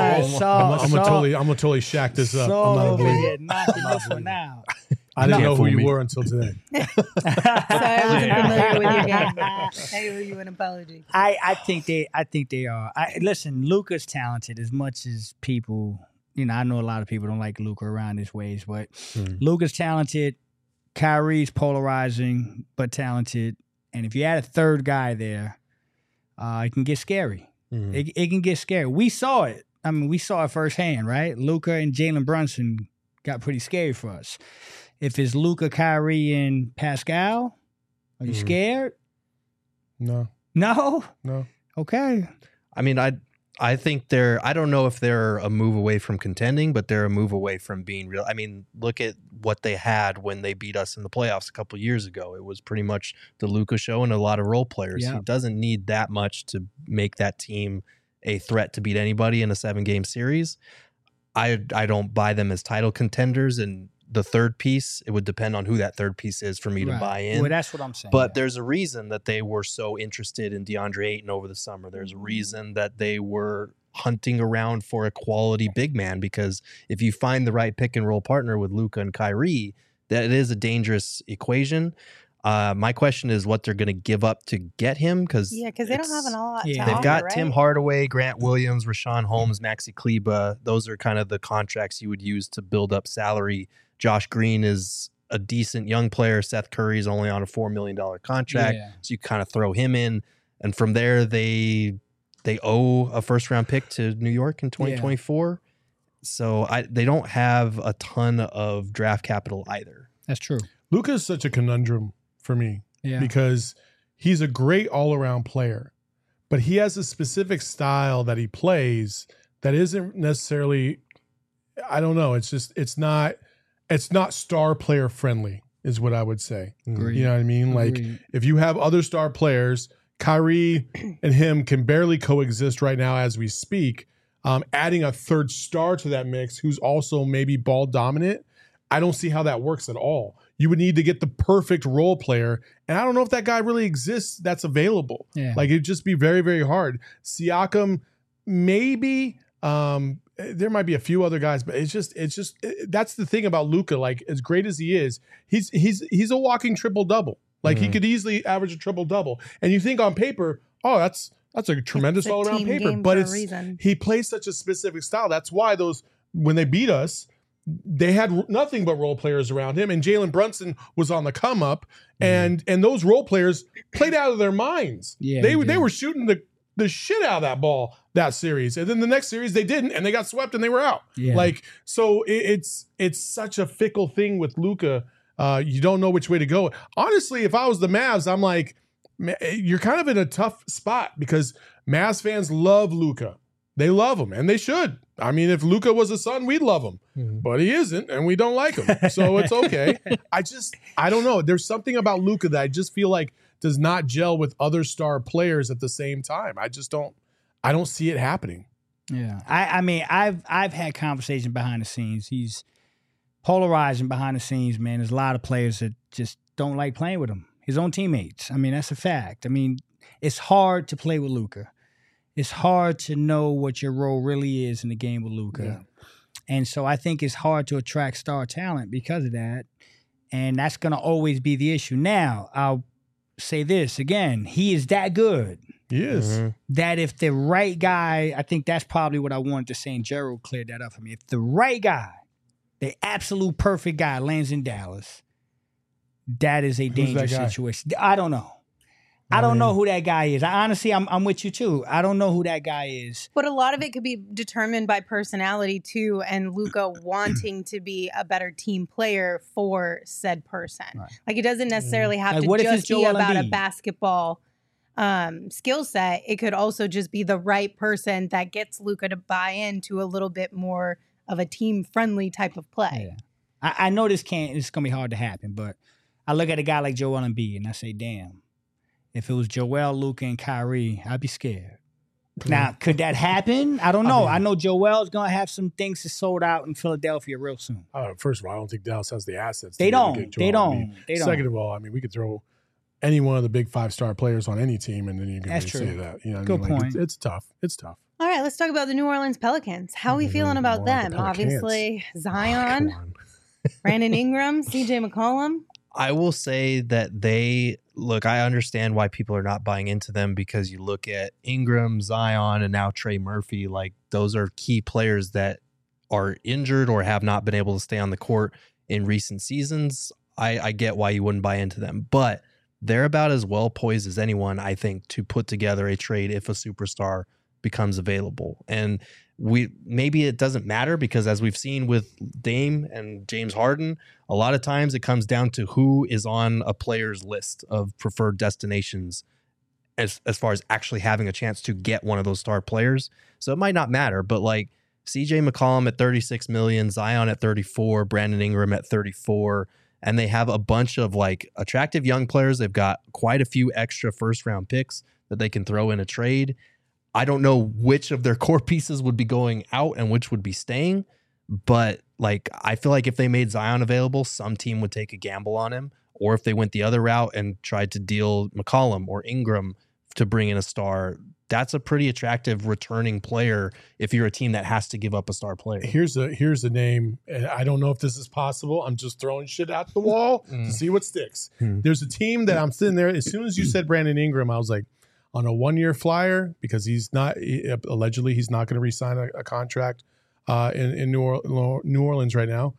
gonna totally shack this up. I'm not over here knocking this one out. I didn't know who you were until today. Sorry, I wasn't familiar with your game. I owe you an apology. I think they are. Listen, Luka's talented as much as people. I know a lot of people don't like Luka around his ways, but Luka's talented. Kyrie's polarizing, but talented. And if you add a third guy there, it can get scary. Mm-hmm. It can get scary. We saw it. I mean, we saw it firsthand, right? Luka and Jalen Brunson got pretty scary for us. If it's Luka, Kyrie, and Pascal, are you scared? No. No? No. Okay. I mean, I think I don't know if they're a move away from contending, but they're a move away from being real. I mean, look at what they had when they beat us in the playoffs a couple of years ago. It was pretty much the Luka show and a lot of role players. Yeah. He doesn't need that much to make that team a threat to beat anybody in a 7-game series. I don't buy them as title contenders, and the third piece, it would depend on who that third piece is for me to buy in. Well, that's what I'm saying. But there's a reason that they were so interested in DeAndre Ayton over the summer. There's a reason that they were hunting around for a quality big man, because if you find the right pick and roll partner with Luka and Kyrie, that it is a dangerous equation. My question is what they're going to give up to get him, because they don't have a lot. They've got right? Tim Hardaway, Grant Williams, Rashawn Holmes, Maxi Kleber. Those are kind of the contracts you would use to build up salary. Josh Green is a decent young player. Seth Curry is only on a $4 million contract, so you kind of throw him in, and from there they owe a first-round pick to New York in 2024. So they don't have a ton of draft capital either. That's true. Luka is such a conundrum for me because he's a great all-around player, but he has a specific style that he plays that isn't necessarily, I don't know, it's not star player friendly is what I would say. Agreed. You know what I mean? Agreed. Like if you have other star players, Kyrie and him can barely coexist right now as we speak. Adding a third star to that mix who's also maybe ball dominant, I don't see how that works at all. You would need to get the perfect role player, and I don't know if that guy really exists that's available. Yeah. Like it'd just be very, very hard. Siakam, maybe. There might be a few other guys, but it's just that's the thing about Luka. Like as great as he is, he's a walking triple double. Like he could easily average a triple double. And you think on paper, oh, that's a tremendous all around paper. But he plays such a specific style. That's why when they beat us, they had nothing but role players around him, and Jalen Brunson was on the come up, and those role players played out of their minds. Yeah, they were shooting the shit out of that ball that series, and then the next series they didn't, and they got swept and they were out. Yeah. Like so, it's such a fickle thing with Luka. You don't know which way to go. Honestly, if I was the Mavs, I'm like, you're kind of in a tough spot because Mavs fans love Luka. They love him, and they should. I mean, if Luka was a son, we'd love him. But he isn't, and we don't like him. So it's okay. I don't know. There's something about Luka that I just feel like does not gel with other star players at the same time. I don't see it happening. Yeah. I mean, I've had conversations behind the scenes. He's polarizing behind the scenes, man. There's a lot of players that just don't like playing with him. His own teammates. I mean, that's a fact. I mean, it's hard to play with Luka. It's hard to know what your role really is in the game with Luka. Yeah. And so I think it's hard to attract star talent because of that. And that's going to always be the issue. Now, I'll say this again. He is that good He is. that if the right guy, I think that's probably what I wanted to say, and Gerald cleared that up for me. If the right guy, the absolute perfect guy lands in Dallas, that is a dangerous that guy? situation. I don't know. I don't know who that guy is. Honestly, I'm with you too. I don't know who that guy is. But a lot of it could be determined by personality too, and Luka wanting to be a better team player for said person. Right. Like it doesn't necessarily have Like, to what if just it's be Joel about a Embiid? basketball skill set. It could also just be the right person that gets Luka to buy into a little bit more of a team friendly type of play. Yeah. I know it's gonna be hard to happen, but I look at a guy like Joel Embiid and I say, damn, if it was Joel, Luka, and Kyrie, I'd be scared. Now, could that happen? I don't know. I know Joel's gonna have some things to sold out in Philadelphia real soon. First of all, I don't think Dallas has the assets. They to be able don't. to get They Joel don't. Embiid. They don't. Second of all, I mean, we could throw any one of the big 5-star players on any team, and then you can That's really say true. that. You know, what I Good mean? Like, point. It's tough. It's tough. All right, let's talk about the New Orleans Pelicans. How are we feeling about More like them? the Pelicans. Obviously, Come Zion, on. Brandon Ingram, CJ McCollum. I will say that I understand why people are not buying into them, because you look at Ingram, Zion, and now Trey Murphy. Like, those are key players that are injured or have not been able to stay on the court in recent seasons. I get why you wouldn't buy into them, but they're about as well poised as anyone, I think, to put together a trade if a superstar becomes available. And maybe it doesn't matter, because as we've seen with Dame and James Harden, a lot of times it comes down to who is on a player's list of preferred destinations as far as actually having a chance to get one of those star players. So it might not matter, but like CJ McCollum at 36 million, Zion at 34, Brandon Ingram at 34, and they have a bunch of like attractive young players. They've got quite a few extra first round picks that they can throw in a trade. I don't know which of their core pieces would be going out and which would be staying, but like, I feel like if they made Zion available, some team would take a gamble on him, or if they went the other route and tried to deal McCollum or Ingram to bring in a star, that's a pretty attractive returning player if you're a team that has to give up a star player. Here's a name, and I don't know if this is possible. I'm just throwing shit out the wall to see what sticks. There's a team that I'm sitting there. As soon as you said Brandon Ingram, I was like, on a 1-year flyer, because allegedly he's not going to re-sign a contract in New Orleans right now.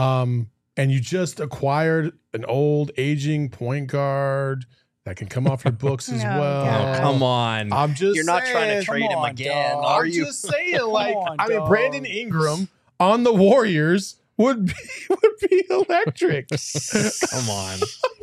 And you just acquired an old aging point guard that can come off your books as Oh, well. God. Oh, come on. I'm just You're not trying saying, to trade come him on, again, dog. are I'm you? just saying, like, on, I mean, dog. Brandon Ingram on the Warriors would be electric. Come on.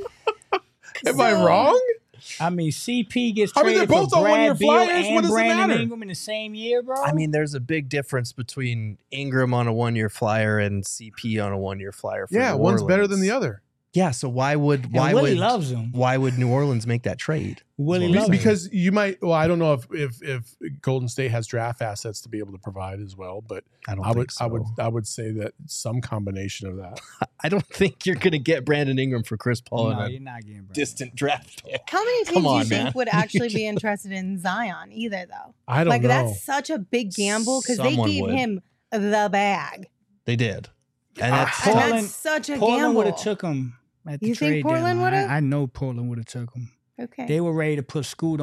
Am I wrong? I mean, CP gets I mean, traded they're both for on Brad 1-year Beal flyers. What and does it Brandon matter? Ingram in the same year, bro. I mean, there's a big difference between Ingram on a 1-year flyer and CP on a 1-year flyer. For Yeah, New one's better Orleans. than the other. Yeah, so why would Willie loves him. Why would New Orleans make that trade? Willie Be- loves him. because you might. Well, I don't know if Golden State has draft assets to be able to provide as well, but I don't I would think so. I would say that some combination of that. I don't think you're going to get Brandon Ingram for Chris Paul No, in you're a not getting Brandon. distant draft pick. How many teams Come do you on, think man. would actually be interested in Zion either, though? I don't Like, know. that's such a big gamble because they Someone gave would. him the bag. They did. And that's And Portland- that's such a Portland gamble. would have took him at the You think trade Portland deadline. would've? I know Portland would have took him. Okay. They were ready to put Scoot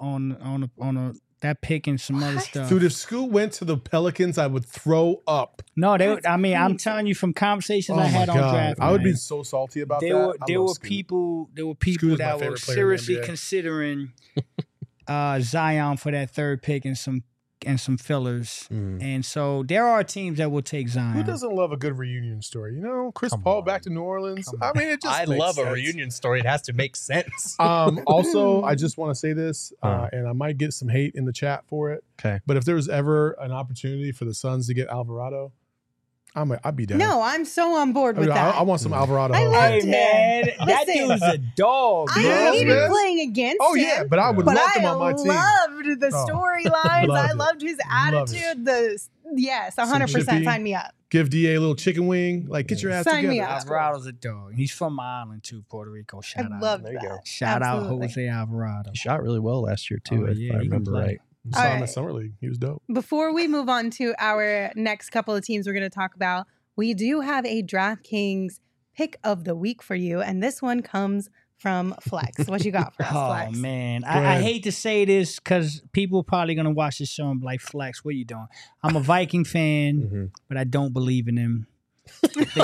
on that pick and some other What? stuff. Dude, if Scoot went to the Pelicans, I would throw up. No, That's I'm crazy. telling you from conversations Oh I my had on God. draft. I would be night, so salty about there that. were I there love were Scoot. people Scoot is my that were favorite player in the seriously NBA. considering Zion for that third pick and some fillers. And so there are teams that will take Zion. Who doesn't love a good reunion story? You know, Chris Come Paul on. back to New Orleans. Come I mean, it just I makes love a sense. reunion story. It has to make sense. Also, I just want to say this, Uh. and I might get some hate in the chat for it. Okay. But if there was ever an opportunity for the Suns to get Alvarado, I'd be down. No, I'm so on board with that. I want some Alvarado. I help. love Hey him. man, that Listen, dude's a dog. I Yes, hated man. playing against Oh him. yeah, but I would But love I him on my team. loved the Oh, storylines. loved I it. loved his Loved it. attitude. Yes, 100%. chippy. Sign me up. Give Da a little chicken wing. Like, get your ass Sign me together. up. Alvarado's a dog. He's from my island too, Puerto Rico. Shout I out. loved There you that. go. Shout out Absolutely. Jose Alvarado. He shot really well last year too, Oh, if yeah, I he can remember play. right. Saw All him at right. Summer League. He was dope. Before we move on to our next couple of teams we're going to talk about, we do have a DraftKings pick of the week for you. And this one comes from Flex. What you got for us, Flex? Oh man, I hate to say this because people are probably gonna watch this show and be like, "Flex, what are you doing?" I'm a Viking fan, but I don't believe in him. No.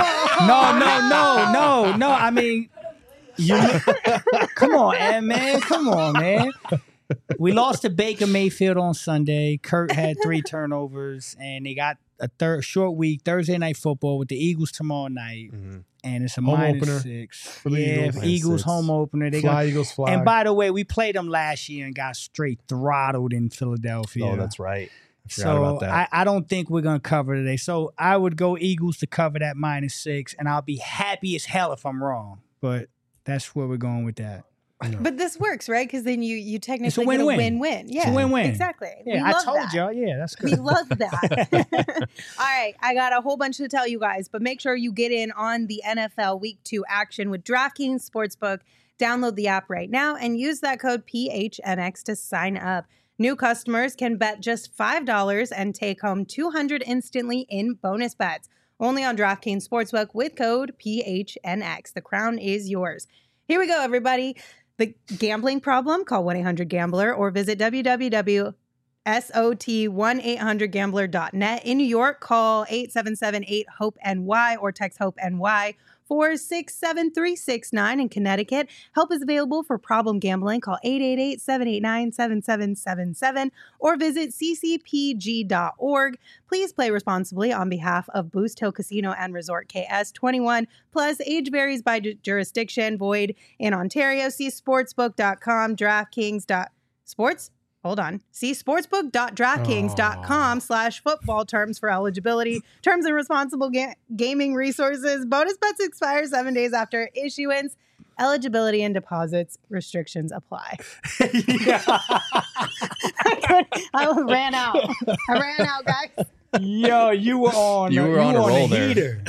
I mean, come on, man. Come on, man. We lost to Baker Mayfield on Sunday. Kurt had 3 turnovers, and they got a short week, Thursday night football with the Eagles tomorrow night. And it's a home minus opener 6 for the Eagles. Eagles home opener. They fly, Eagles fly. And by the way, we played them last year and got straight throttled in Philadelphia. Oh, that's right. So I don't think we're going to cover today. So I would go Eagles to cover that minus 6, and I'll be happy as hell if I'm wrong. But that's where we're going with that. But this works, right? Because then you technically It's a win-win. get a win-win. Yeah, It's a win-win. Exactly. Yeah, We I love told that. y'all. Yeah, that's good. We love that. All right, I got a whole bunch to tell you guys, but make sure you get in on the NFL Week 2 action with DraftKings Sportsbook. Download the app right now and use that code PHNX to sign up. New customers can bet just $5 and take home $200 instantly in bonus bets. Only on DraftKings Sportsbook with code PHNX. The crown is yours. Here we go, everybody. The gambling problem? Call 1-800-GAMBLER or visit www.sot1800gambler.net. In New York, call 877-8-HOPE-NY or text HOPE-NY 467-369. In Connecticut, help is available for problem gambling. Call 888-789-7777 or visit ccpg.org. Please play responsibly on behalf of Boost Hill Casino and Resort KS. 21 plus, age varies by jurisdiction, void in Ontario. See sportsbook.com, DraftKings.sports. Hold on. See sportsbook.draftkings.com/football terms for eligibility, terms and responsible gaming resources. Bonus bets expire 7 days after issuance. Eligibility and deposits restrictions apply. I ran out. Guys. Yo, you were on. You were on a roll the there. heater.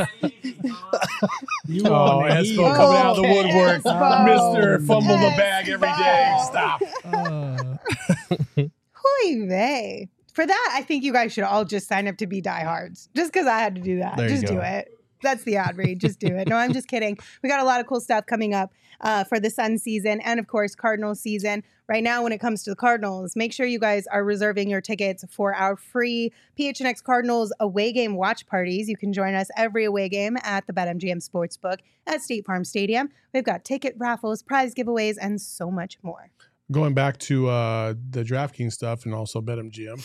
You were Oh, on the Espo heater. coming out of the woodwork. Espo. Mr. Fumble the bag every day. Espo. Stop. Hooey vey. For that, I think you guys should all just sign up to be diehards. Just because I had to do that. There you Just go. do it. That's the ad read. Just do it. No, I'm just kidding. We got a lot of cool stuff coming up for the Sun season and, of course, Cardinals season. Right now, when it comes to the Cardinals, make sure you guys are reserving your tickets for our free PHNX Cardinals away game watch parties. You can join us every away game at the BetMGM Sportsbook at State Farm Stadium. We've got ticket raffles, prize giveaways, and so much more. Going back to the DraftKings stuff and also BetMGM.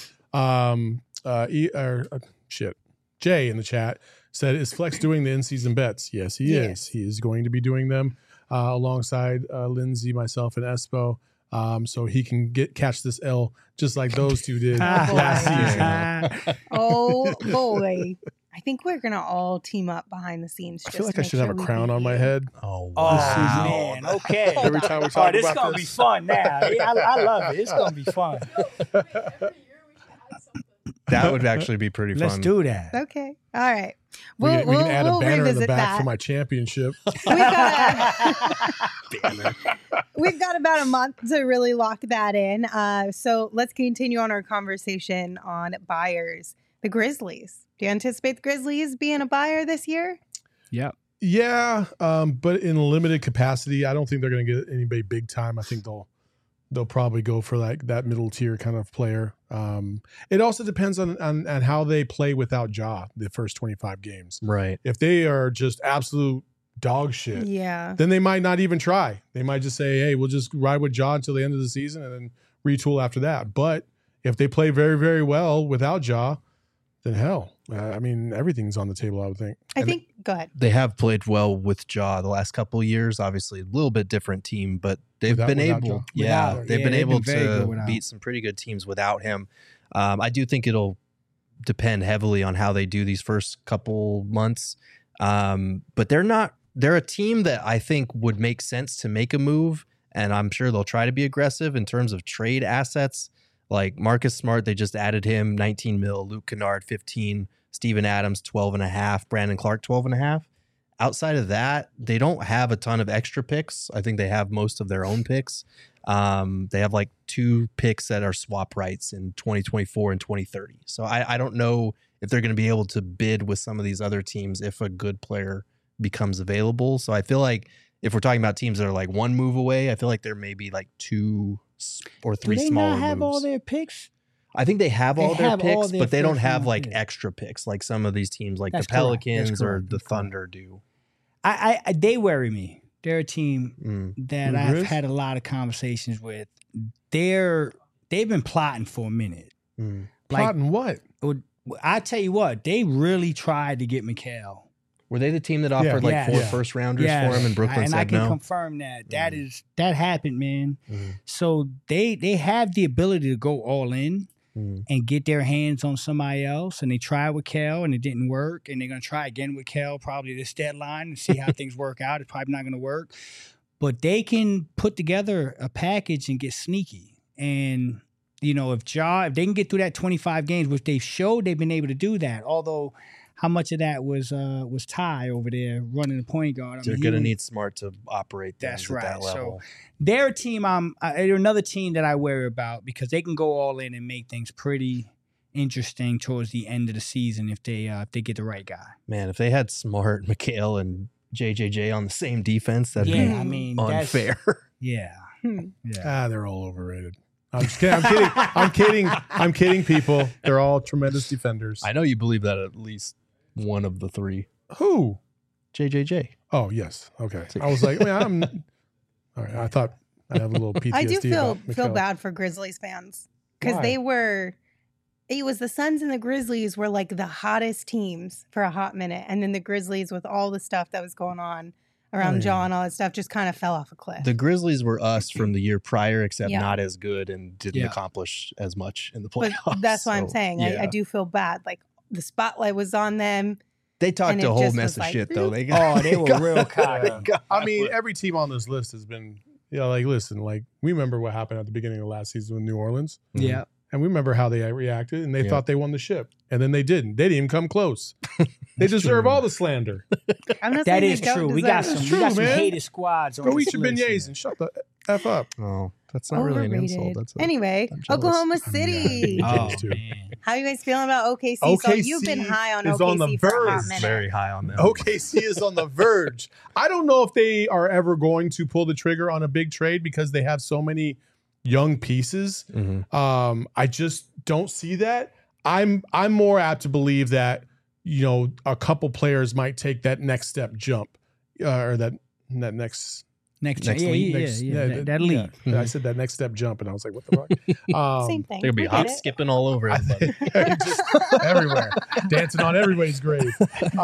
Jay in the chat said, is Flex doing the in-season bets? Yes, he is. He is going to be doing them alongside Lindsay, myself, and Espo. So he can catch this L just like those two did last season. Oh, boy. I think we're going to all team up behind the scenes. I feel like I should have a crown on my head. Oh, Oh, wow. man. Okay. Every time we talk this about going to be this. fun now. I love it. It's going to be fun. That would actually be pretty fun. Let's do that. Okay. All right. We can add a banner in the revisit back that. for my championship. We've got about a month to really lock that in. So let's continue on our conversation on buyers. The Grizzlies. Do you anticipate the Grizzlies being a buyer this year? Yep. Yeah, but in limited capacity. I don't think they're going to get anybody big time. I think they'll probably go for like that middle tier kind of player. It also depends on how they play without Ja the first 25 games. Right. If they are just absolute dog shit, Yeah. then they might not even try. They might just say, hey, we'll just ride with Ja until the end of the season and then retool after that. But if they play very, very well without Ja, then hell, I mean, everything's on the table, I would think. Go ahead. They have played well with Ja the last couple of years. Obviously, a little bit different team, but they've Without been Ja. able, Without, they've yeah, been they've able been very good to without. beat some pretty good teams without him. I do think it'll depend heavily on how they do these first couple months. But they're a team that I think would make sense to make a move, and I'm sure they'll try to be aggressive in terms of trade assets. Like Marcus Smart, they just added him 19 mil, Luke Kennard 15, Steven Adams 12.5, Brandon Clark 12.5. Outside of that, they don't have a ton of extra picks. I think they have most of their own picks. They have like 2 picks that are swap rights in 2024 and 2030. So I don't know if they're going to be able to bid with some of these other teams if a good player becomes available. So I feel like if we're talking about teams that are like one move away, I feel like there may be like 2 or 3 Do they smaller not have moves. all their picks? I think they have all their picks, but they don't have like picks. extra picks like some of these teams, like That's the correct. Pelicans That's or correct. the That's Thunder do. They worry me. They're a team that The I've Grizz? had a lot of conversations with. They've been plotting for a minute. Mm. Plotting what? I tell you what, they really tried to get Mikal. Were they the team that offered like 4 first rounders for him, and Brooklyn said I can no? confirm that. That happened, man. Mhm. So they have the ability to go all in and get their hands on somebody else. And they tried with Kel and it didn't work. And they're gonna try again with Kel probably this deadline and see how things work out. It's probably not gonna work. But they can put together a package and get sneaky. And if they can get through that 25 games, which they've showed they've been able to do that, although how much of that was Ty over there running the point guard? They're going to need Smart to operate things That's at right. that level. So they're a team. They're another team that I worry about because they can go all in and make things pretty interesting towards the end of the season if they get the right guy. Man, if they had Smart, Mikal, and JJJ on the same defense, that'd be unfair. Yeah. They're all overrated. I'm just kidding. I'm kidding, people. They're all tremendous defenders. I know you believe that at least one of the 3. Who? JJJ. Oh, yes. Okay. I was like, all right. I thought I have a little PTSD. I do feel about Mikal. bad for Grizzlies fans because Why? it was the Suns and the Grizzlies were like the hottest teams for a hot minute. And then the Grizzlies with all the stuff that was going on around John, all that stuff just kind of fell off a cliff. The Grizzlies were us from the year prior, except Yeah. not as good and didn't accomplish as much in the playoffs. But that's why I'm saying yeah. I do feel bad. Like the spotlight was on them. They talked and a it whole just mess was of like, shit, though. They They were real cocky. I mean, every team on this list has been, listen, we remember what happened at the beginning of last season with New Orleans. Yeah. And we remember how they reacted, and they Yeah. thought they won the ship. And then they didn't. They didn't even come close. They deserve all the slander. I'm not That saying is they don't true. deserve We got it. some man. hated squads on Go this eat your list, beignets man. and shut the F up. Oh, that's not really an insult. Overrated. That's Anyway, I'm jealous. Oklahoma I mean, City. yeah. Oh, too. man. How you guys feeling about OKC? So OKC you've been high on is OKC on the for a hot verge. minute. very high on them. OKC is on the verge. I don't know if they are ever going to pull the trigger on a big trade because they have so many young pieces. Mhm. I just don't see that. I'm more apt to believe that a couple players might take that next step jump or that next. Next Next yeah, league? that lead. Yeah, I said that next step jump, and I was like, "What the fuck?" Same thing. They're going to be I hop get it. skipping all over everybody. Just everywhere, dancing on everybody's grave.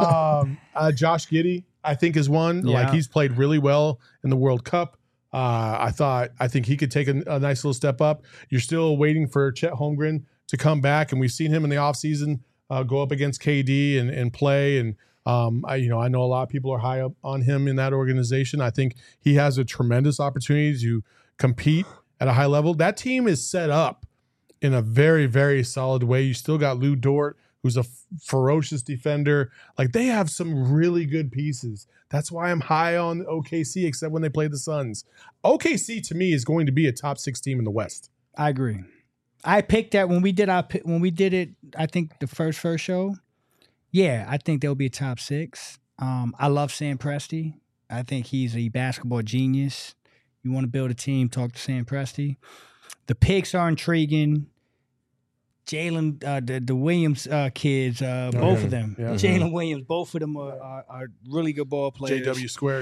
Josh Giddey, I think, is one. Yeah. Like he's played really well in the World Cup. I think he could take a nice little step up. You're still waiting for Chet Holmgren to come back, and we've seen him in the offseason go up against KD and play. And I know a lot of people are high up on him in that organization. I think he has a tremendous opportunity to compete at a high level. That team is set up in a very, very solid way. You still got Lou Dort, who's a ferocious defender. Like they have some really good pieces. That's why I'm high on OKC, except when they play the Suns. OKC to me is going to be a top 6 team in the West. I agree. I picked that when we did it. I think the first show. Yeah, I think they'll be a top 6. I love Sam Presti. I think he's a basketball genius. You want to build a team, talk to Sam Presti. The picks are intriguing. Jalen, the Williams kids, both of them. Yeah. Jalen Williams, both of them are really good ball players. JW squared.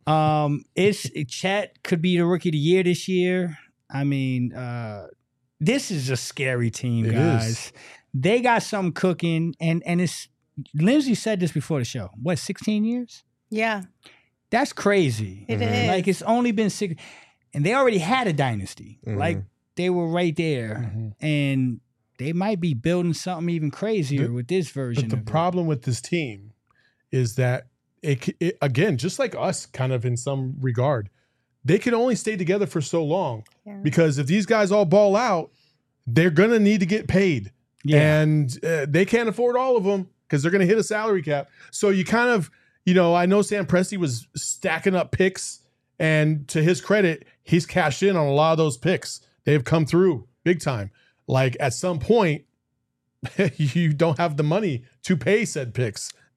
Chet could be the rookie of the year this year. I mean, this is a scary team, It guys. is. They got something cooking, and it's Lindsay said this before the show. What, 16 years? Yeah, That's crazy. it is. Like it's only been 6, and they already had a dynasty. Mhm. Like they were right there, and they might be building something even crazier with this version. But the of it. problem with this team is that it again, just like us, kind of in some regard, they can only stay together for so long Yeah. because if these guys all ball out, they're gonna need to get paid, Yeah. and they can't afford all of them because they're gonna hit a salary cap. So you kind of, I know Sam Presti was stacking up picks, and to his credit, he's cashed in on a lot of those picks. They've come through big time. Like at some point, you don't have the money to pay said picks.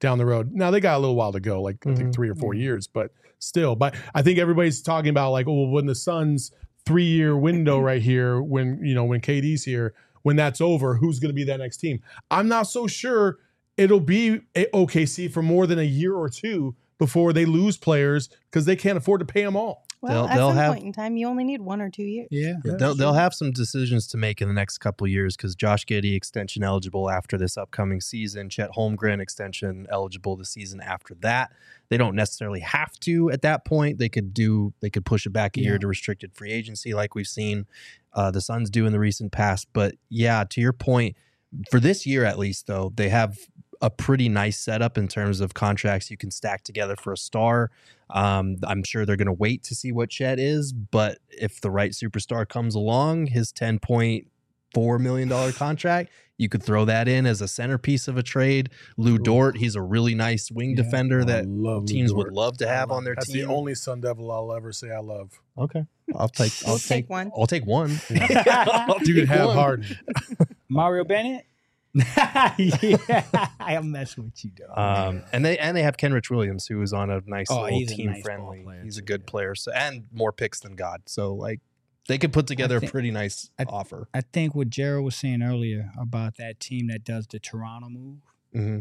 down the road. Now they got a little while to go, like I think 3 or 4 years, but still. But I think everybody's talking about like, oh, when the Suns' 3-year window right here, when KD's here, when that's over, who's going to be that next team? I'm not so sure it'll be OKC for more than a year or two before they lose players because they can't afford to pay them all. Well, at some point in time, you only need 1 or 2 years. Yeah. They'll have some decisions to make in the next couple of years because Josh Giddey extension eligible after this upcoming season. Chet Holmgren extension eligible the season after that. They don't necessarily have to at that point. They could push it back a year to restricted free agency like we've seen the Suns do in the recent past. But yeah, to your point, for this year at least, though, they have a pretty nice setup in terms of contracts you can stack together for a star. I'm sure they're going to wait to see what Chet is, but if the right superstar comes along, his $10.4 million contract, you could throw that in as a centerpiece of a trade. Lou Dort, he's a really nice wing defender that teams would love to have on their That's team. the only Sun Devil I'll ever say I love. Okay. I'll take one. I'll take one. You can have Harden. Mario Bennett? Yeah, I'm messing with you, though. And they have Kenrich Williams, who is on a nice little he's a team nice friendly. ball player, He's a too, good player, so and more picks than God. So like they could put together a pretty nice offer. I think what Gerald was saying earlier about that team that does the Toronto move. Mm-hmm.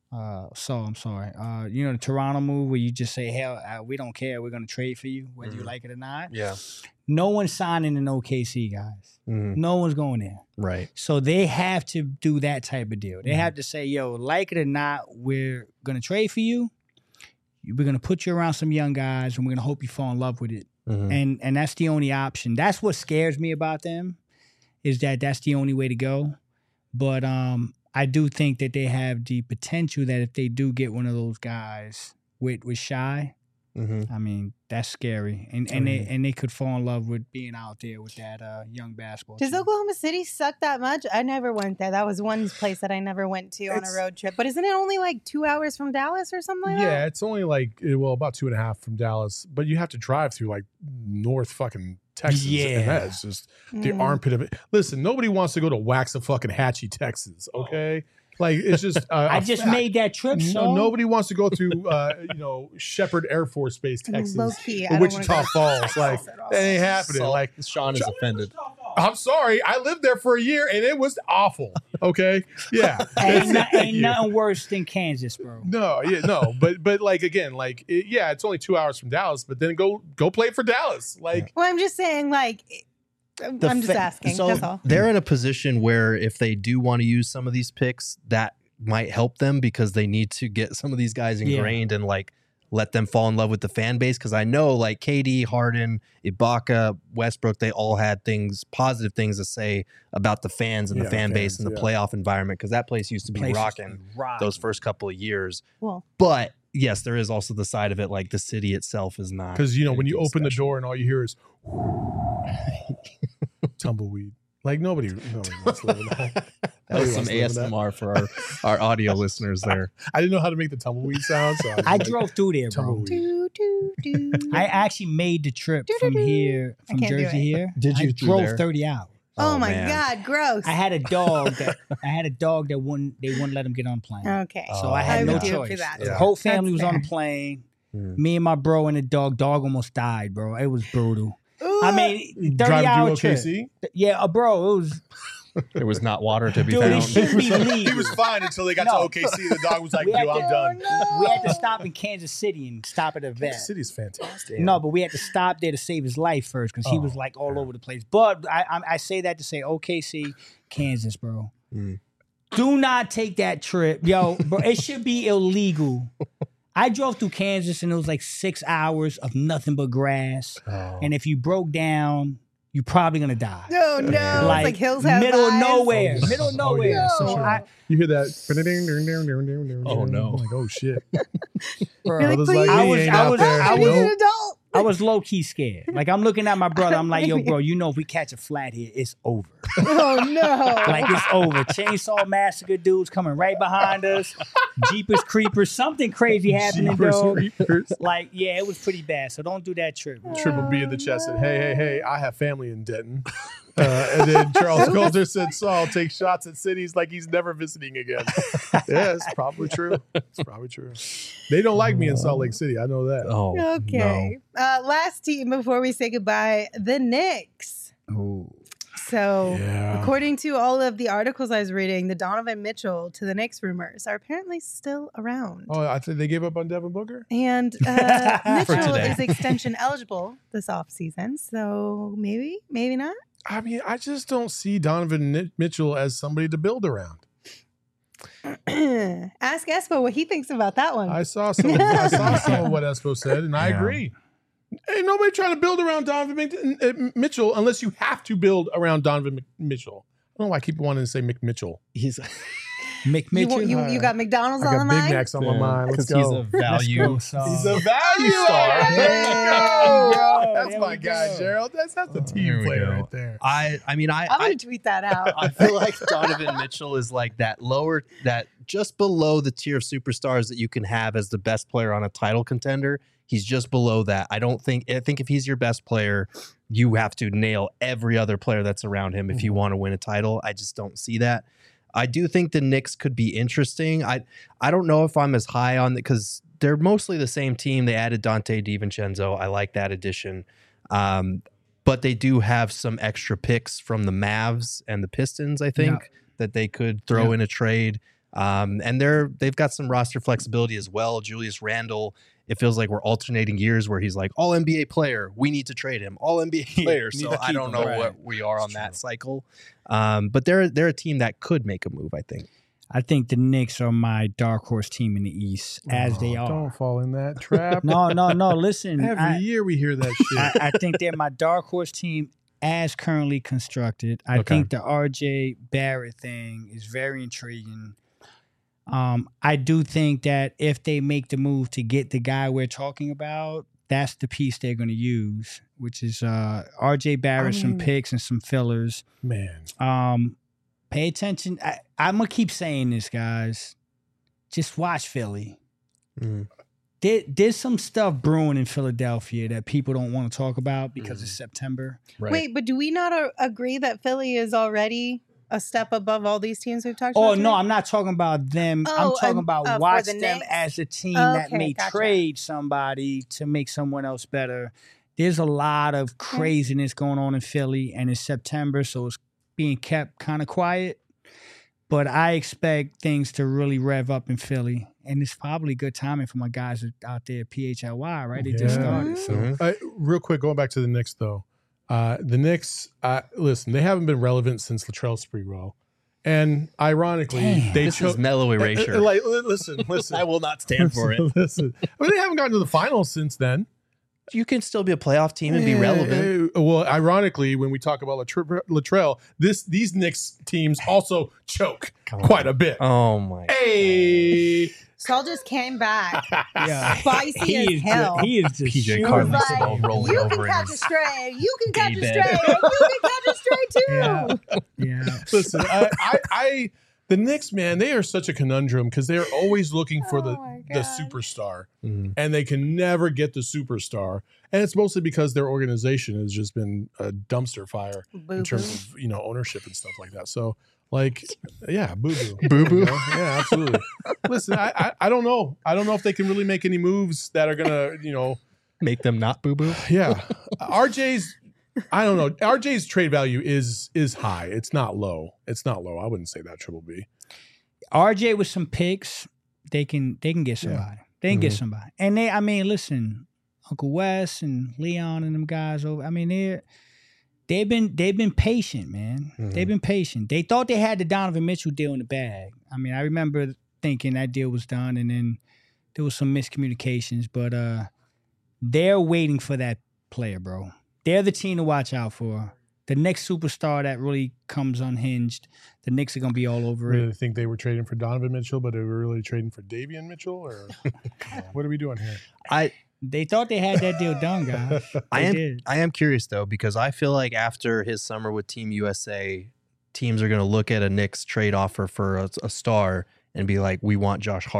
I'm sorry. The Toronto move where you just say, hell, we don't care. We're going to trade for you, whether you like it or not. Yeah. No one's signing in OKC, guys. Mm-hmm. No one's going there. Right. So they have to do that type of deal. They have to say, yo, like it or not, we're going to trade for you. We're going to put you around some young guys, and we're going to hope you fall in love with it. Mm-hmm. And that's the only option. That's what scares me about them, is that that's the only way to go. But I do think that they have the potential that if they do get one of those guys with Shai, I mean, that's scary. And they could fall in love with being out there with that young basketball Does team. Oklahoma City suck that much? I never went there. That was one place that I never went to on a road trip. But isn't it only like 2 hours from Dallas or something like that? Yeah, it's only like, about 2.5 from Dallas. But you have to drive through like North fucking Texas. Yeah. And that is just the armpit of it. Listen, nobody wants to go to Waxahachie, Texas, okay? Like, it's just I just made that trip, so nobody wants to go through Shepherd Air Force Base, Texas, Low key, or Wichita Falls. Like, that ain't happening. Like, Sean is offended. I'm sorry, I lived there for a year and it was awful. Okay, yeah, ain't nothing worse than Kansas, bro. No, but like again, like it's only 2 hours from Dallas, but then go play for Dallas. Like, Well, I'm just saying, like, I'm just asking. So that's all. they're in a position where if they do want to use some of these picks, that might help them because they need to get some of these guys ingrained and like let them fall in love with the fan base. Because I know like KD, Harden, Ibaka, Westbrook, they all had positive things to say about the fans and the fan base and the playoff environment because that place used to be rocking those first couple of years. Well, but yes, there is also the side of it, like the city itself is not. Because when you open the door and all you hear is tumbleweed. Like nobody wants to live in that. That was some ASMR for our audio listeners there. I didn't know how to make the tumbleweed sound, so I drove through there, bro. I actually made the trip from here, from Jersey here. Did you I drove 30 hours. Oh my God, gross. I had a dog that they wouldn't let him get on the plane. Okay. So I had no choice. For that. The whole family That's was on fair. the plane. Me and my bro and the dog almost died, bro. It was brutal. I mean, 30-hour trip. OKC? Yeah, bro, it was. There was not water to be Dude, found. it should be legal. He was fine until they got to OKC. The dog was like, We had "Dude, I'm to- done." We had to stop in Kansas City and stop at a vet. Kansas City's fantastic. No, but we had to stop there to save his life first because he was like all over the place. But I say that to say OKC, Kansas, bro. Do not take that trip. Yo, bro, it should be illegal. I drove through Kansas and it was like 6 hours of nothing but grass. And if you broke down, you're probably going to die. No, it's like Hills Have middle of Eyes. nowhere. Middle of nowhere. yeah, So sure. You hear that? Oh, no. I'm like, oh shit. bro, You're like, Brothers please. like me ain't out there. I was Nope. an adult. I was low key scared. Like I'm looking at my brother. I'm like, yo, bro, you know if we catch a flat here, it's over. Oh no. Like it's over. Chainsaw Massacre dudes coming right behind us. Jeepers Creepers. Something crazy happening, dog. Like, yeah, it was pretty bad. So don't do that trip. Triple B in the chest said, hey, I have family in Denton. And then Charles Coulter said Saul takes shots at cities like he's never visiting again. Yeah, it's probably true. It's probably true. They don't like me in Salt Lake City. I know that. Oh, Okay. Last team before we say goodbye, the Knicks. Ooh. So, Yeah. according to all of the articles I was reading, the Donovan Mitchell to the Knicks rumors are apparently still around. Oh, I think they gave up on Devin Booker? And Mitchell today. is extension eligible this offseason. So maybe not. I mean, I just don't see Donovan Mitchell as somebody to build around. Ask Espo what he thinks about that one. I saw some of what Espo said, and I Yeah. agree. Ain't nobody trying to build around Donovan Mitchell unless you have to build around Donovan Mitchell. I don't know why I keep wanting to say McMitchell. he's Mick Mitchell. You got McDonald's I on got the Big mind? Macs on my mind. Let's because he's go. a value. He's a value star. There There we you go. go. That's There my we guy, go. Gerald. That's the There team we player go. right there. I mean, I'm going to tweet that out. I feel like Donovan Mitchell is like that just below the tier of superstars that you can have as the best player on a title contender. He's just below that. I think if he's your best player, you have to nail every other player that's around him if you want to win a title. I just don't see that. I do think the Knicks could be interesting. I don't know if I'm as high on it because they're mostly the same team. They added Dante DiVincenzo. I like that addition. But they do have some extra picks from the Mavs and the Pistons, I think, that they could throw in a trade. And they've got some roster flexibility as well. Julius Randle, it feels like we're alternating years where he's like, all NBA player, we need to trade him. All NBA player. Need So to I keep don't him, know right. what we are on that cycle. But they're a team that could make a move, I think. I think the Knicks are my dark horse team in the East, as they are. Don't fall in that trap. No. Listen, Every year we hear that shit. I think they're my dark horse team as currently constructed. I Okay. think the RJ Barrett thing is very intriguing. I do think that if they make the move to get the guy we're talking about, that's the piece they're going to use, which is RJ Barrett, some picks and some fillers. Man. Pay attention. I'm going to keep saying this, guys. Just watch Philly. There's some stuff brewing in Philadelphia that people don't want to talk about because it's September. Right. Wait, but do we not agree that Philly is already a step above all these teams we've talked about? Oh, today? no, I'm not talking about them. I'm Oh, talking about for watch the them Knicks? as a team that Okay, may gotcha. trade somebody to make someone else better. There's a lot of craziness going on in Philly, and it's September, so it's being kept kind of quiet. But I expect things to really rev up in Philly. And it's probably good timing for my guys out there at PHLY, right? They just Yeah. started. So Real quick, going back to the Knicks, though. The Knicks, listen, they haven't been relevant since Latrell Sprewell. And ironically, Damn. they This chose. is mellow erasure. Listen. I will not stand for it. Listen. I mean, they haven't gotten to the finals since then. You can still be a playoff team and be relevant. Well, ironically, when we talk about Latrell, these Knicks teams also choke quite a bit. Oh my! Hey, Saul just came back. yeah. Spicy as hell. He is just PJ shooting. Carlin Like, Simone rolling you over can in catch a his stray. You can catch a bed. stray. And you can catch a stray too. Yeah. listen, I the Knicks, man, they are such a conundrum because they are always looking for Oh my the God. superstar, Mhm. and they can never get the superstar, and it's mostly because their organization has just been a dumpster fire in terms of ownership and stuff like that. So, like, yeah, boo boo, yeah, absolutely. Listen, I don't know. I don't know if they can really make any moves that are gonna, Make them not boo boo. yeah. I don't know. RJ's trade value is high. It's not low. I wouldn't say that, Triple B. RJ with some picks, they can get somebody. They can get somebody. And listen, Uncle Wes and Leon and them guys over. I mean, they've been patient, man. They've been patient. They thought they had the Donovan Mitchell deal in the bag. I mean, I remember thinking that deal was done, and then there was some miscommunications. But they're waiting for that player, bro. They're the team to watch out for. The next superstar that really comes unhinged, the Knicks are going to be all over it. Really think they were trading for Donovan Mitchell, but they were really trading for Davion Mitchell, or what are we doing here? They thought they had that deal done, guys. I They am did. I am curious though, because I feel like after his summer with Team USA, teams are going to look at a Knicks trade offer for a star and be like, we want Josh Hart.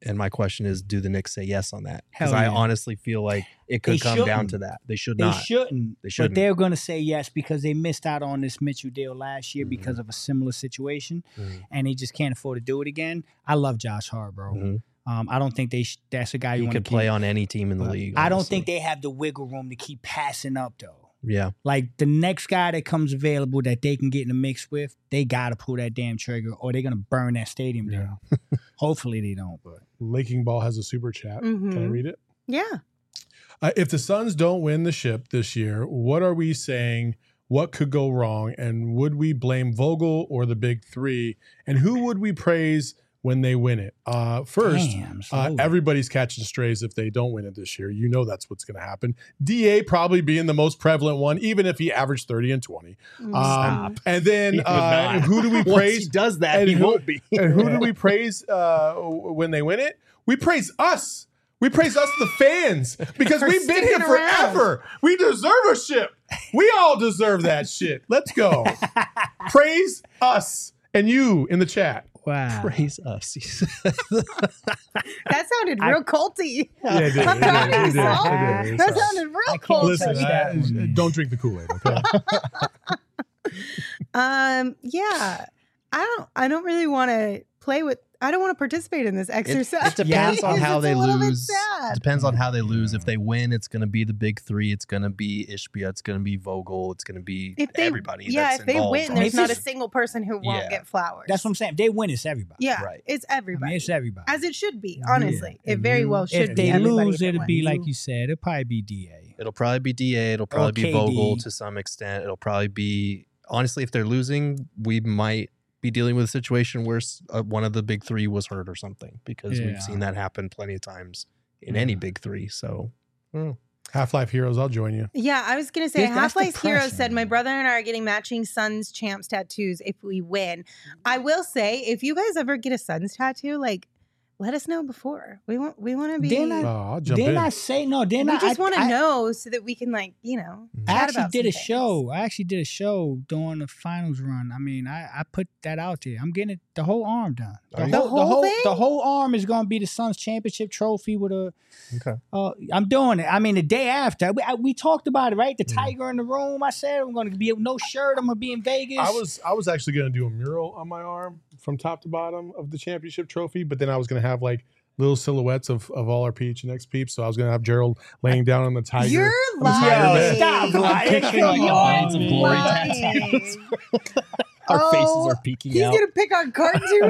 And my question is, do the Knicks say yes on that? Because Hell I yeah. honestly feel like it could They come down shouldn't. to that. They should They not. shouldn't. They shouldn't. But they're going to say yes because they missed out on this Mitchell deal last year because of a similar situation, and they just can't afford to do it again. I love Josh Hart, bro. Mhm. I don't think that's a guy you He want could to play on any team in the league. I don't honestly. think they have the wiggle room to keep passing up, though. Yeah. Like the next guy that comes available that they can get in the mix with, they got to pull that damn trigger or they're going to burn that stadium down. Hopefully they don't. But Laking Ball has a super chat. Can I Mhm. read it? Yeah. If the Suns don't win the ship this year, what are we saying? What could go wrong? And would we blame Vogel or the big three? And who would we praise when they win it? First, Damn, slowly. everybody's catching strays if they don't win it this year. You know that's what's going to happen. DA probably being the most prevalent one, even if he averaged 30 and 20. Stop. And then He would not. who do we Once praise? he does that, and he who- won't be. And who do we praise when they win it? We praise us. We praise us, the fans, because For we've been here sticking around. forever. We deserve a ship. We all deserve that shit. Let's go. Praise us and you in the chat. wow. Praise us. That sounded real culty. Yeah, it did. I'm proud of you, Saul. It did. That Sorry. sounded real can't culty. Listen, touch that one, man. don't drink the Kool-Aid, okay? Yeah. I don't really want to play with. I don't want to participate in this exercise. It depends on how It's they a little bit lose. sad. Depends on how they lose. If they win, it's going to be the big three. It's going to be Ishbia. It's going to be Vogel. It's going to be If they, everybody. yeah, that's if they involved. win, I mean, there's if not a it's- single person who won't Yeah. get flowers. That's what I'm saying. If they win, it's everybody. Yeah, Right. it's I everybody. mean, it's everybody. As it should be, Yeah. honestly. It very well should If be. they everybody lose, that it'll be wins. like you said. It'll probably be DA. It'll probably be DA. It'll probably be KD. Vogel to some extent. It'll probably be, honestly, if they're losing, we might be dealing with a situation where one of the big three was hurt or something, because Yeah. we've seen that happen plenty of times in any big three. So, I don't know. Half-Life Heroes, I'll join you. Yeah, I was gonna say That's Half-Life Hero depressing. said my brother and I are getting matching Suns champs tattoos if we win. I will say, if you guys ever get a Suns tattoo, like let us know before. We want to be. Didn't I- I'll jump Didn't in. I say no? Didn't we I? just want to I- know so that we can I chat actually about did a some show. I actually did a show during the finals run. I mean, I put that out there. I'm getting the whole arm done. Are you- The whole thing? The whole arm is going to be the Suns championship trophy with a. Okay. I'm doing it. I mean, the day after we talked about it, right? The Mm. tiger in the room. I said I'm going to be no shirt. I'm going to be in Vegas. I was actually going to do a mural on my arm from top to bottom of the championship trophy, but then I was going to have like little silhouettes of all our PHNX peeps. So I was going to have Gerald laying down on the tiger. You're on the tiger lying. bed. Stop I'm lying. picturing, like, Come a on. Blades of Glory Lying. Our faces Oh, are peeking He's out. gonna pick on cartoon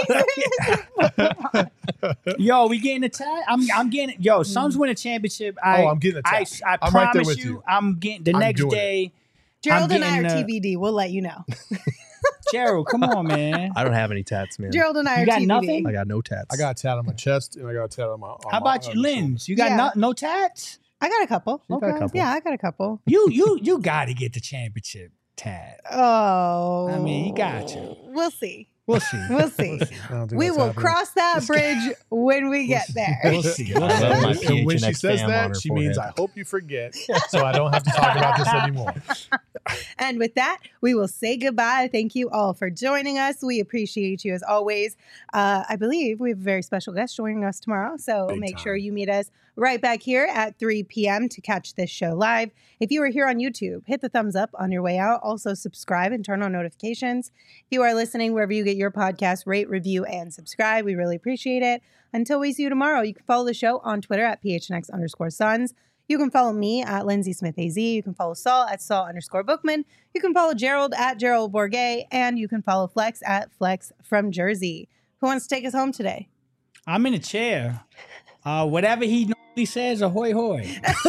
faces. Yo, we getting a tie. I'm getting it. Yo, Suns win a championship. I'm getting a I tap. I I'm right there promise with you, you. I'm getting the I'm next doing it. day. Gerald and I are getting, TBD. We'll let you know. Gerald, come on, man. I don't have any tats, man. Gerald and I You are got TBD. nothing? I got no tats. I got a tat on my chest and I got a tat on my. How about you, Lens? You got Yeah. no tats? I got a couple. You got a couple. Yeah, I got a couple. You got to get the championship tat. Oh, I mean, you got to. We'll see. We'll see. We'll see. We will cross that bridge when we get there. We'll see. We'll I love my see. And when she PHNX says fam on her that, she means forehead. I hope you forget, so I don't have to talk about this anymore. And with that, we will say goodbye. Thank you all for joining us. We appreciate you as always. I believe we have a very special guest joining us tomorrow. So Big make time. sure you meet us right back here at 3 p.m. to catch this show live. If you are here on YouTube, hit the thumbs up on your way out. Also subscribe and turn on notifications. If you are listening wherever you get your podcast, rate, review, and subscribe. We really appreciate it. Until we see you tomorrow, you can follow the show on Twitter at PHNX_Suns. You can follow me at Lindsay Smith AZ. You can follow Saul at Saul_Bookman. You can follow Gerald at Gerald Bourget. And you can follow Flex at Flex from Jersey. Who wants to take us home today? I'm in a chair. Whatever he normally says, ahoy hoy.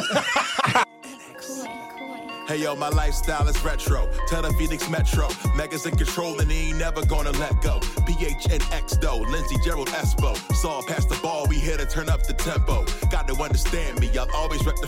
Hey yo, my lifestyle is retro. Tell the Phoenix Metro. Megas in control and he ain't never gonna let go. PHNX though, Lindsey, Gerald, Espo. Saw past the ball, we here to turn up the tempo. Got to understand me, I'll always rep the